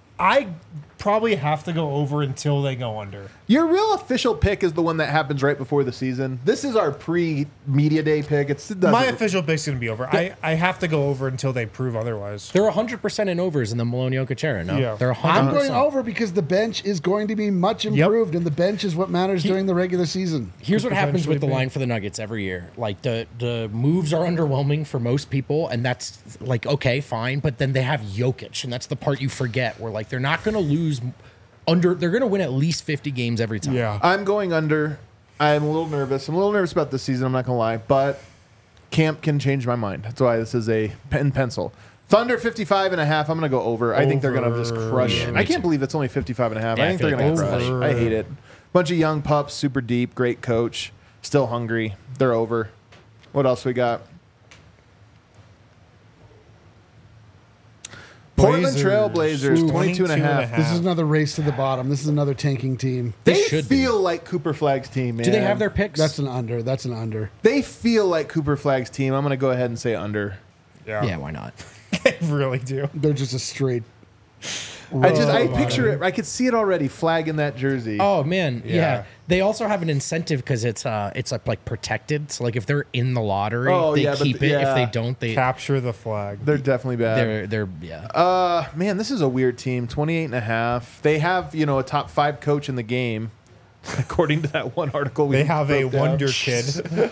S4: have to go over until they go under.
S1: Your real official pick is the one that happens right before the season. This is our pre-media day pick. It doesn't-
S4: My official pick's going to be over. I have to go over until they prove otherwise.
S3: They're 100% in overs in the Malone Jokic era. No,
S4: Yeah.
S3: they're 100%.
S2: I'm going over because the bench is going to be much improved, and the bench is what matters during the regular season.
S3: Here's what happens with the
S4: potentially be.
S3: line for the Nuggets every year. Like the moves are underwhelming for most people, and that's like okay, fine. But then they have Jokic, and that's the part you forget. Where like they're not going to lose under. They're going to win at least 50 games every time.
S4: Yeah.
S1: I'm going under. I'm a little nervous. I'm a little nervous about this season. I'm not going to lie. But camp can change my mind. That's why this is a pen pencil. Thunder 55.5. I'm going to go over. I think they're going to just crush.
S3: Yeah, me
S1: I can't
S3: too.
S1: believe it's only 55.5.
S3: Yeah,
S1: I
S3: I
S1: think
S3: feel
S1: they're
S3: like
S1: going to
S3: that's
S1: crush.
S4: over.
S1: I hate it. Bunch of young pups, super deep, great coach, still hungry. They're over. What else we got? Portland Trail Blazers,
S2: Ooh,
S1: 22.5.
S2: This is another race to the bottom. This is another tanking team.
S1: They
S3: should be.
S1: feel like Cooper Flag's team, man.
S3: Do they have their picks?
S2: That's an under. That's an under.
S1: They feel like Cooper Flag's team. I'm going to go ahead and say under.
S3: yeah, why not?
S4: They really do.
S2: They're just a straight.
S1: I picture it. I could see it already. Flag in that jersey.
S3: Oh man, yeah.
S4: Yeah.
S3: They also have an incentive because it's like protected. So like if they're in the lottery,
S1: Oh,
S3: they
S1: yeah, but
S3: keep it. If
S1: yeah.
S3: they don't, they
S4: Capture the flag.
S1: They're definitely bad.
S3: they're yeah.
S1: Man, this is a weird team. 28.5. They have, a top 5 coach in the game, according to that one article.
S4: They have a wonder kid.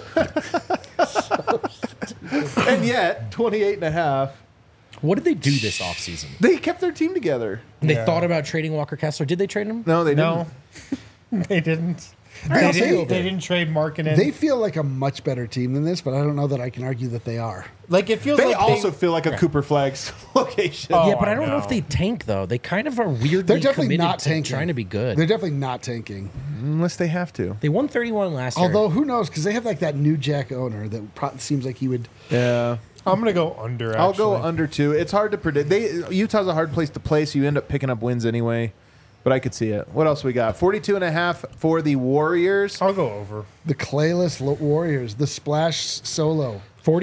S1: And yet, 28.5.
S3: What did they do this offseason?
S1: They kept their team together.
S3: They
S4: Yeah.
S3: thought about trading Walker Kessler. Did they trade him?
S1: No, they didn't.
S4: No, they didn't.
S2: I'll
S4: They
S2: say
S4: didn't,
S2: over.
S4: they didn't trade Markkinen.
S2: They feel like a much better team than this, but I don't know that I can argue that they are.
S4: like it feels
S1: They
S4: like
S1: also feel like a Cooper Flag's location.
S4: Oh,
S3: Yeah, but I
S4: I
S3: don't know if
S4: know.
S3: they tank though. They kind of are weirdly
S2: They're definitely
S3: committed
S2: not
S3: to
S2: tanking.
S3: trying to be good.
S2: They're definitely not tanking.
S1: Unless they have to.
S3: They won 31 last year.
S2: Although who knows? Because they have like that new Jack owner that seems like he would.
S1: Yeah.
S4: I'm gonna go under. Actually.
S1: I'll go under 2. It's hard to predict. Utah's a hard place to play, so you end up picking up wins anyway. But I could see it. What else we got? 42.5 for the Warriors.
S4: I'll go over.
S2: The clayless Warriors, the splash solo,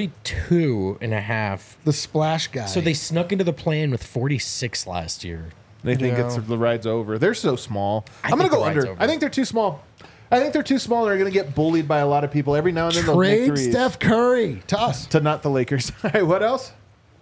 S3: 42.5.
S2: the splash guy.
S3: So they snuck into the plan with 46 last year.
S1: They think
S4: Yeah.
S1: the ride's over. They're so small.
S3: I
S1: I'm going
S3: think
S1: to go
S3: the ride's
S1: under.
S3: over.
S1: I think they're too small. I think they're too small. They're going to get bullied by a lot of people. Every now and then they'll make
S2: trade
S1: threes.
S2: Steph Curry to us.
S1: To not the Lakers. All right, what else?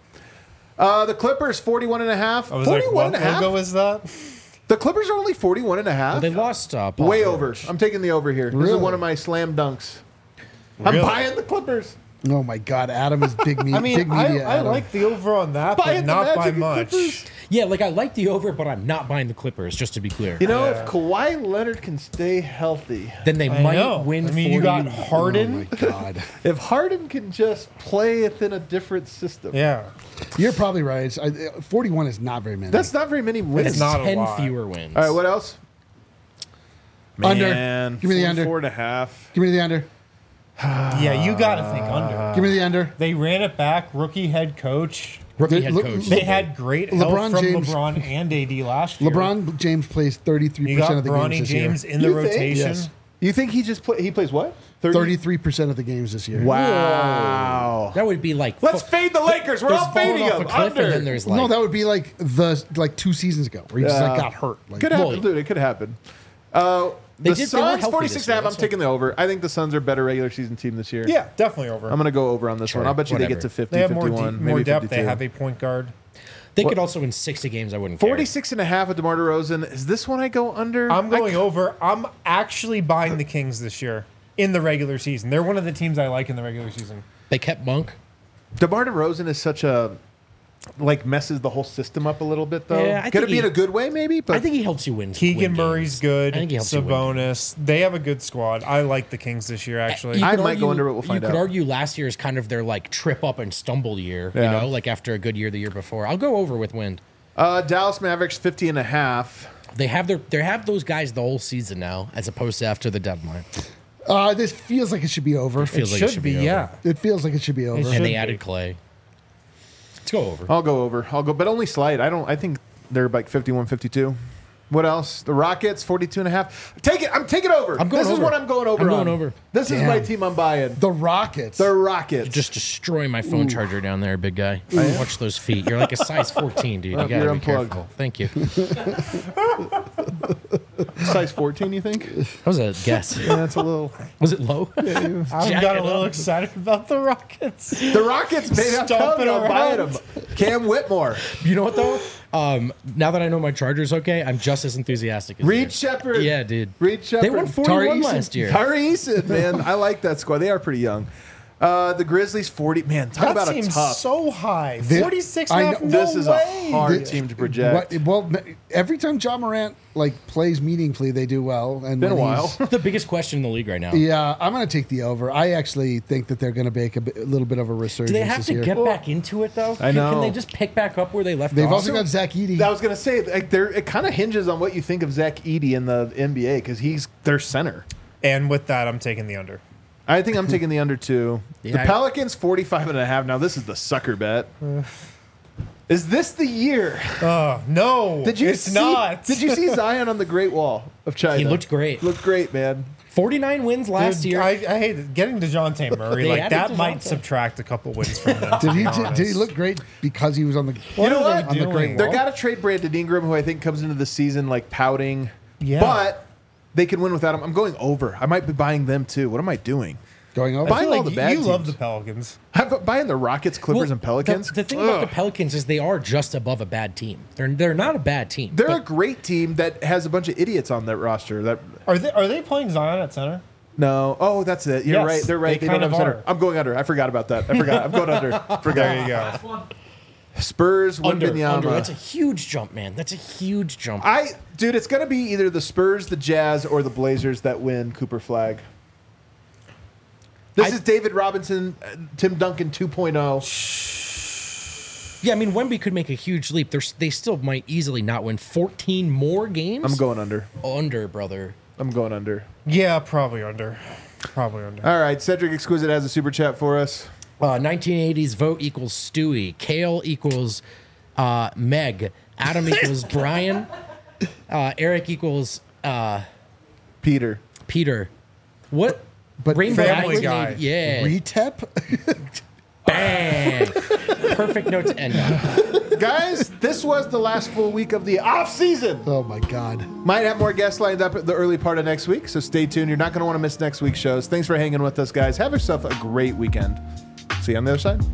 S1: The Clippers, 41.5.
S4: I was like, what logo is that?
S1: The Clippers are only 41.5.
S3: Well, they lost Paul
S1: Way
S3: George.
S1: over. I'm taking the over here. This
S2: Really?
S1: is one of my slam dunks. I'm
S4: Really?
S1: buying the Clippers.
S2: Oh my God, Adam is big,
S4: I
S2: big
S4: mean,
S2: media.
S4: I
S2: Adam.
S4: like the over on that,
S1: Buying
S4: but
S1: the
S4: not by
S1: Magic and
S4: much.
S1: Clippers.
S3: Yeah, like I like the over, but I'm not buying the Clippers, just to be clear.
S1: You know,
S4: Yeah.
S1: if Kawhi Leonard can stay healthy,
S3: Then they
S4: I
S3: might
S4: know.
S3: win
S4: I mean, you
S3: 40.
S4: got
S2: Oh
S4: Harden.
S2: my God,
S1: if Harden can just play within a different system,
S4: Yeah,
S2: you're probably right. 41 is not very many.
S1: that's not very many wins.
S3: It's
S4: not a
S3: 10
S4: lot.
S3: fewer wins.
S1: All right, what else?
S2: Under.
S1: Man,
S2: Give me the under.
S1: 4.5.
S2: Give me the under.
S4: yeah, you got to think under.
S2: Give me the under.
S4: They ran it back. Rookie head coach.
S3: Rookie
S2: They-
S3: head
S2: look-
S3: coach.
S4: They had great help
S2: LeBron
S4: from
S2: James-
S4: LeBron and AD last year.
S2: LeBron James plays 33%
S4: You got
S2: of the
S4: Bronny
S2: games this
S4: James
S2: year.
S4: in the
S1: You think?
S4: rotation.
S2: Yes.
S1: You think he just he plays what?
S2: 33% of the games this year.
S1: Wow.
S3: That would be like
S1: Let's fade the Lakers. We're
S3: there's
S1: all
S3: falling
S1: fading
S3: off
S1: them.
S3: a cliff, and
S1: Under.
S3: then there's like
S2: No, that would be like 2 seasons ago where he just
S1: Yeah.
S2: like got hurt. Like,
S1: Could happen,
S3: Well,
S1: dude. It could happen.
S3: They
S1: The
S3: did- they were
S1: Suns,
S3: healthy
S1: 46
S3: this year,
S1: I'm
S3: that's
S1: taking the over. I think the Suns are a better regular season team this year.
S4: Yeah, definitely over.
S1: I'm going to go over on this one. I'll bet you they get to
S3: whatever.
S1: 50,
S4: They have more,
S1: 51,
S4: more
S1: maybe
S4: depth.
S1: 52.
S4: They have a point guard.
S3: they could also win 60 games. I wouldn't care.
S1: 46.5 with DeMar DeRozan. Is this one I go under?
S4: I'm going over. I'm actually buying the Kings this year in the regular season. They're one of the teams I like in the regular season.
S3: They kept Monk.
S1: DeMar DeRozan is such a messes the whole system up a little bit though.
S3: Yeah, I
S1: Could
S3: think
S1: it be in a good way maybe? But
S3: I think he helps you win.
S4: Keegan
S3: win
S4: Murray's
S3: games.
S4: good.
S3: I think he helps you win.
S4: Sabonis. They have a good squad. I like the Kings this year, actually.
S3: You
S1: I
S3: could
S1: might go under, but we'll find
S3: You
S1: out.
S3: could argue last year is kind of their like trip up and stumble year.
S1: Yeah.
S3: You know, like after a good year the year before. I'll go over with Wind.
S1: Dallas Mavericks 50.5.
S3: They have those guys the whole season now, as opposed to after the deadline.
S2: this feels like it should be over.
S4: it
S3: feels like
S4: should
S3: it should
S4: be,
S3: be over.
S4: yeah.
S2: It feels like it should be over.
S4: should
S3: And they
S4: be.
S3: added Clay. Let's go over.
S1: I'll go over. But only slight. I think they're like 51, 52. What else? The Rockets 42.5. Take it. I'm taking over.
S3: I'm going
S1: This is
S3: over.
S1: what I'm going over
S3: I'm going
S1: on.
S3: over.
S1: This is
S2: Damn.
S1: my team I'm buying.
S2: The Rockets.
S1: The Rockets.
S3: Just destroy my phone charger down there, big guy. Watch those feet. You're like a size 14, dude. You
S1: You're
S3: gotta be
S1: unplugged.
S3: careful. Thank you.
S1: size 14, you think?
S3: That was a guess.
S1: Yeah, that's a little.
S3: Was it low?
S4: I
S3: Jack
S4: got
S3: it
S4: a little
S3: up.
S4: excited about the Rockets.
S1: The Rockets, baby. I'm
S4: Stomping
S1: telling you, I'm buying
S4: around.
S1: them. Cam Whitmore.
S3: You know what though? Now that I know my charger's okay, I'm just as enthusiastic as
S1: Reed
S3: you.
S1: Shepard.
S3: Yeah, dude.
S1: Reed Shepard.
S3: They won 41
S2: Eason.
S3: last year.
S1: Tari Eason, man. I like that squad. They are pretty young. The Grizzlies 40. Man, talk
S4: That
S1: about a
S4: seems
S1: tough.
S4: so high.
S2: Thi-
S4: 46
S2: I
S4: and a half?
S2: know-
S4: No
S1: This is
S4: way.
S1: a hard team to project.
S2: Well, every time John Morant plays meaningfully, they do well. And
S1: Been a
S2: when
S1: while.
S2: he's-
S3: The biggest question in the league right now.
S2: Yeah, I'm going to take the over. I actually think that they're going to make a little bit of a resurgence
S3: Do they have
S2: this
S3: to
S2: year.
S3: get back into it though?
S1: I know.
S3: Can they just pick back up where they left
S2: They've
S3: off?
S2: also got Zach Edey.
S1: I was gonna say, like, it kind of hinges on what you think of Zach Edey in the NBA because he's their center.
S4: And with that, I'm taking the under.
S1: I think I'm taking the under too. The
S3: Yeah,
S1: Pelicans 45.5. Now this is the sucker bet. Is this the year?
S4: No,
S1: Did you
S4: it's
S1: see,
S4: not.
S1: Did you see Zion on the Great Wall of China?
S3: He looked great.
S1: Looked great, man.
S3: 49 wins last
S4: Dude,
S3: year.
S4: I hate it. Getting DeJounte Murray.
S3: They
S4: like
S3: added
S4: that might
S3: DeJounte.
S4: subtract a couple wins from them.
S2: Did
S4: to
S2: he
S4: be
S2: did he
S4: honest.
S2: look great because he was on the?
S4: What
S1: You know
S4: are
S1: what?
S4: they
S2: On the
S4: doing?
S2: Great
S1: They're
S2: Wall?
S1: got to trade Brandon Ingram, who I think comes into the season like pouting.
S4: Yeah.
S1: But they can win without him. I'm going over. I might be buying them too. What am I doing?
S2: Going over.
S4: I
S1: Buying
S4: feel
S1: all
S4: like
S1: the bad
S4: you love
S1: teams.
S4: the Pelicans.
S1: I'm buying the Rockets, Clippers,
S3: Well,
S1: and Pelicans.
S3: The thing about the
S1: Ugh.
S3: Pelicans is they are just above a bad team. They're not a bad team.
S1: They're a
S3: but
S1: great team that has a bunch of idiots on that roster. That
S4: Are they playing Zion at center?
S1: no, oh, that's it. You're
S4: Yes,
S1: right. They're right.
S4: they
S1: They, don't
S4: kind
S1: have a
S4: of
S1: center.
S4: are.
S1: I'm going under. I forgot about that. I forgot. I'm going under. Forgot.
S4: There you go.
S1: Spurs,
S3: under.
S1: Wembanyama.
S3: That's a huge jump, man. That's a huge jump.
S1: Dude, it's gonna be either the Spurs, the Jazz, or the Blazers that win Cooper Flag. This is David Robinson, Tim Duncan 2.0.
S3: Yeah, I mean, Wemby could make a huge leap. They still might easily not win 14 more games.
S1: I'm going under.
S3: under, brother.
S1: I'm going under.
S4: Yeah, probably under. Probably under.
S1: All right, Cedric Exquisite has a super chat for us.
S3: 1980s vote equals Stewie. Kale equals Meg. Adam equals Brian. Eric equals
S1: Peter.
S3: Peter. What?
S2: But
S3: Rainbow
S4: Family
S3: 1980
S4: Guy.
S3: Yeah.
S2: Retep.
S3: Bang. Perfect note to end on.
S1: Guys, this was the last full week of the off season.
S2: Oh my God.
S1: Might have more guests lined up at the early part of next week, so stay tuned. You're not going to want to miss next week's shows. Thanks for hanging with us, guys. Have yourself a great weekend. See you on the other side.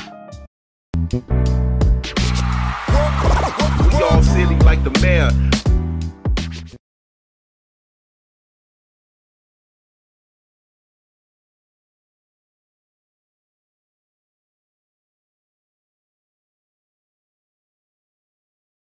S5: We all silly like the mayor.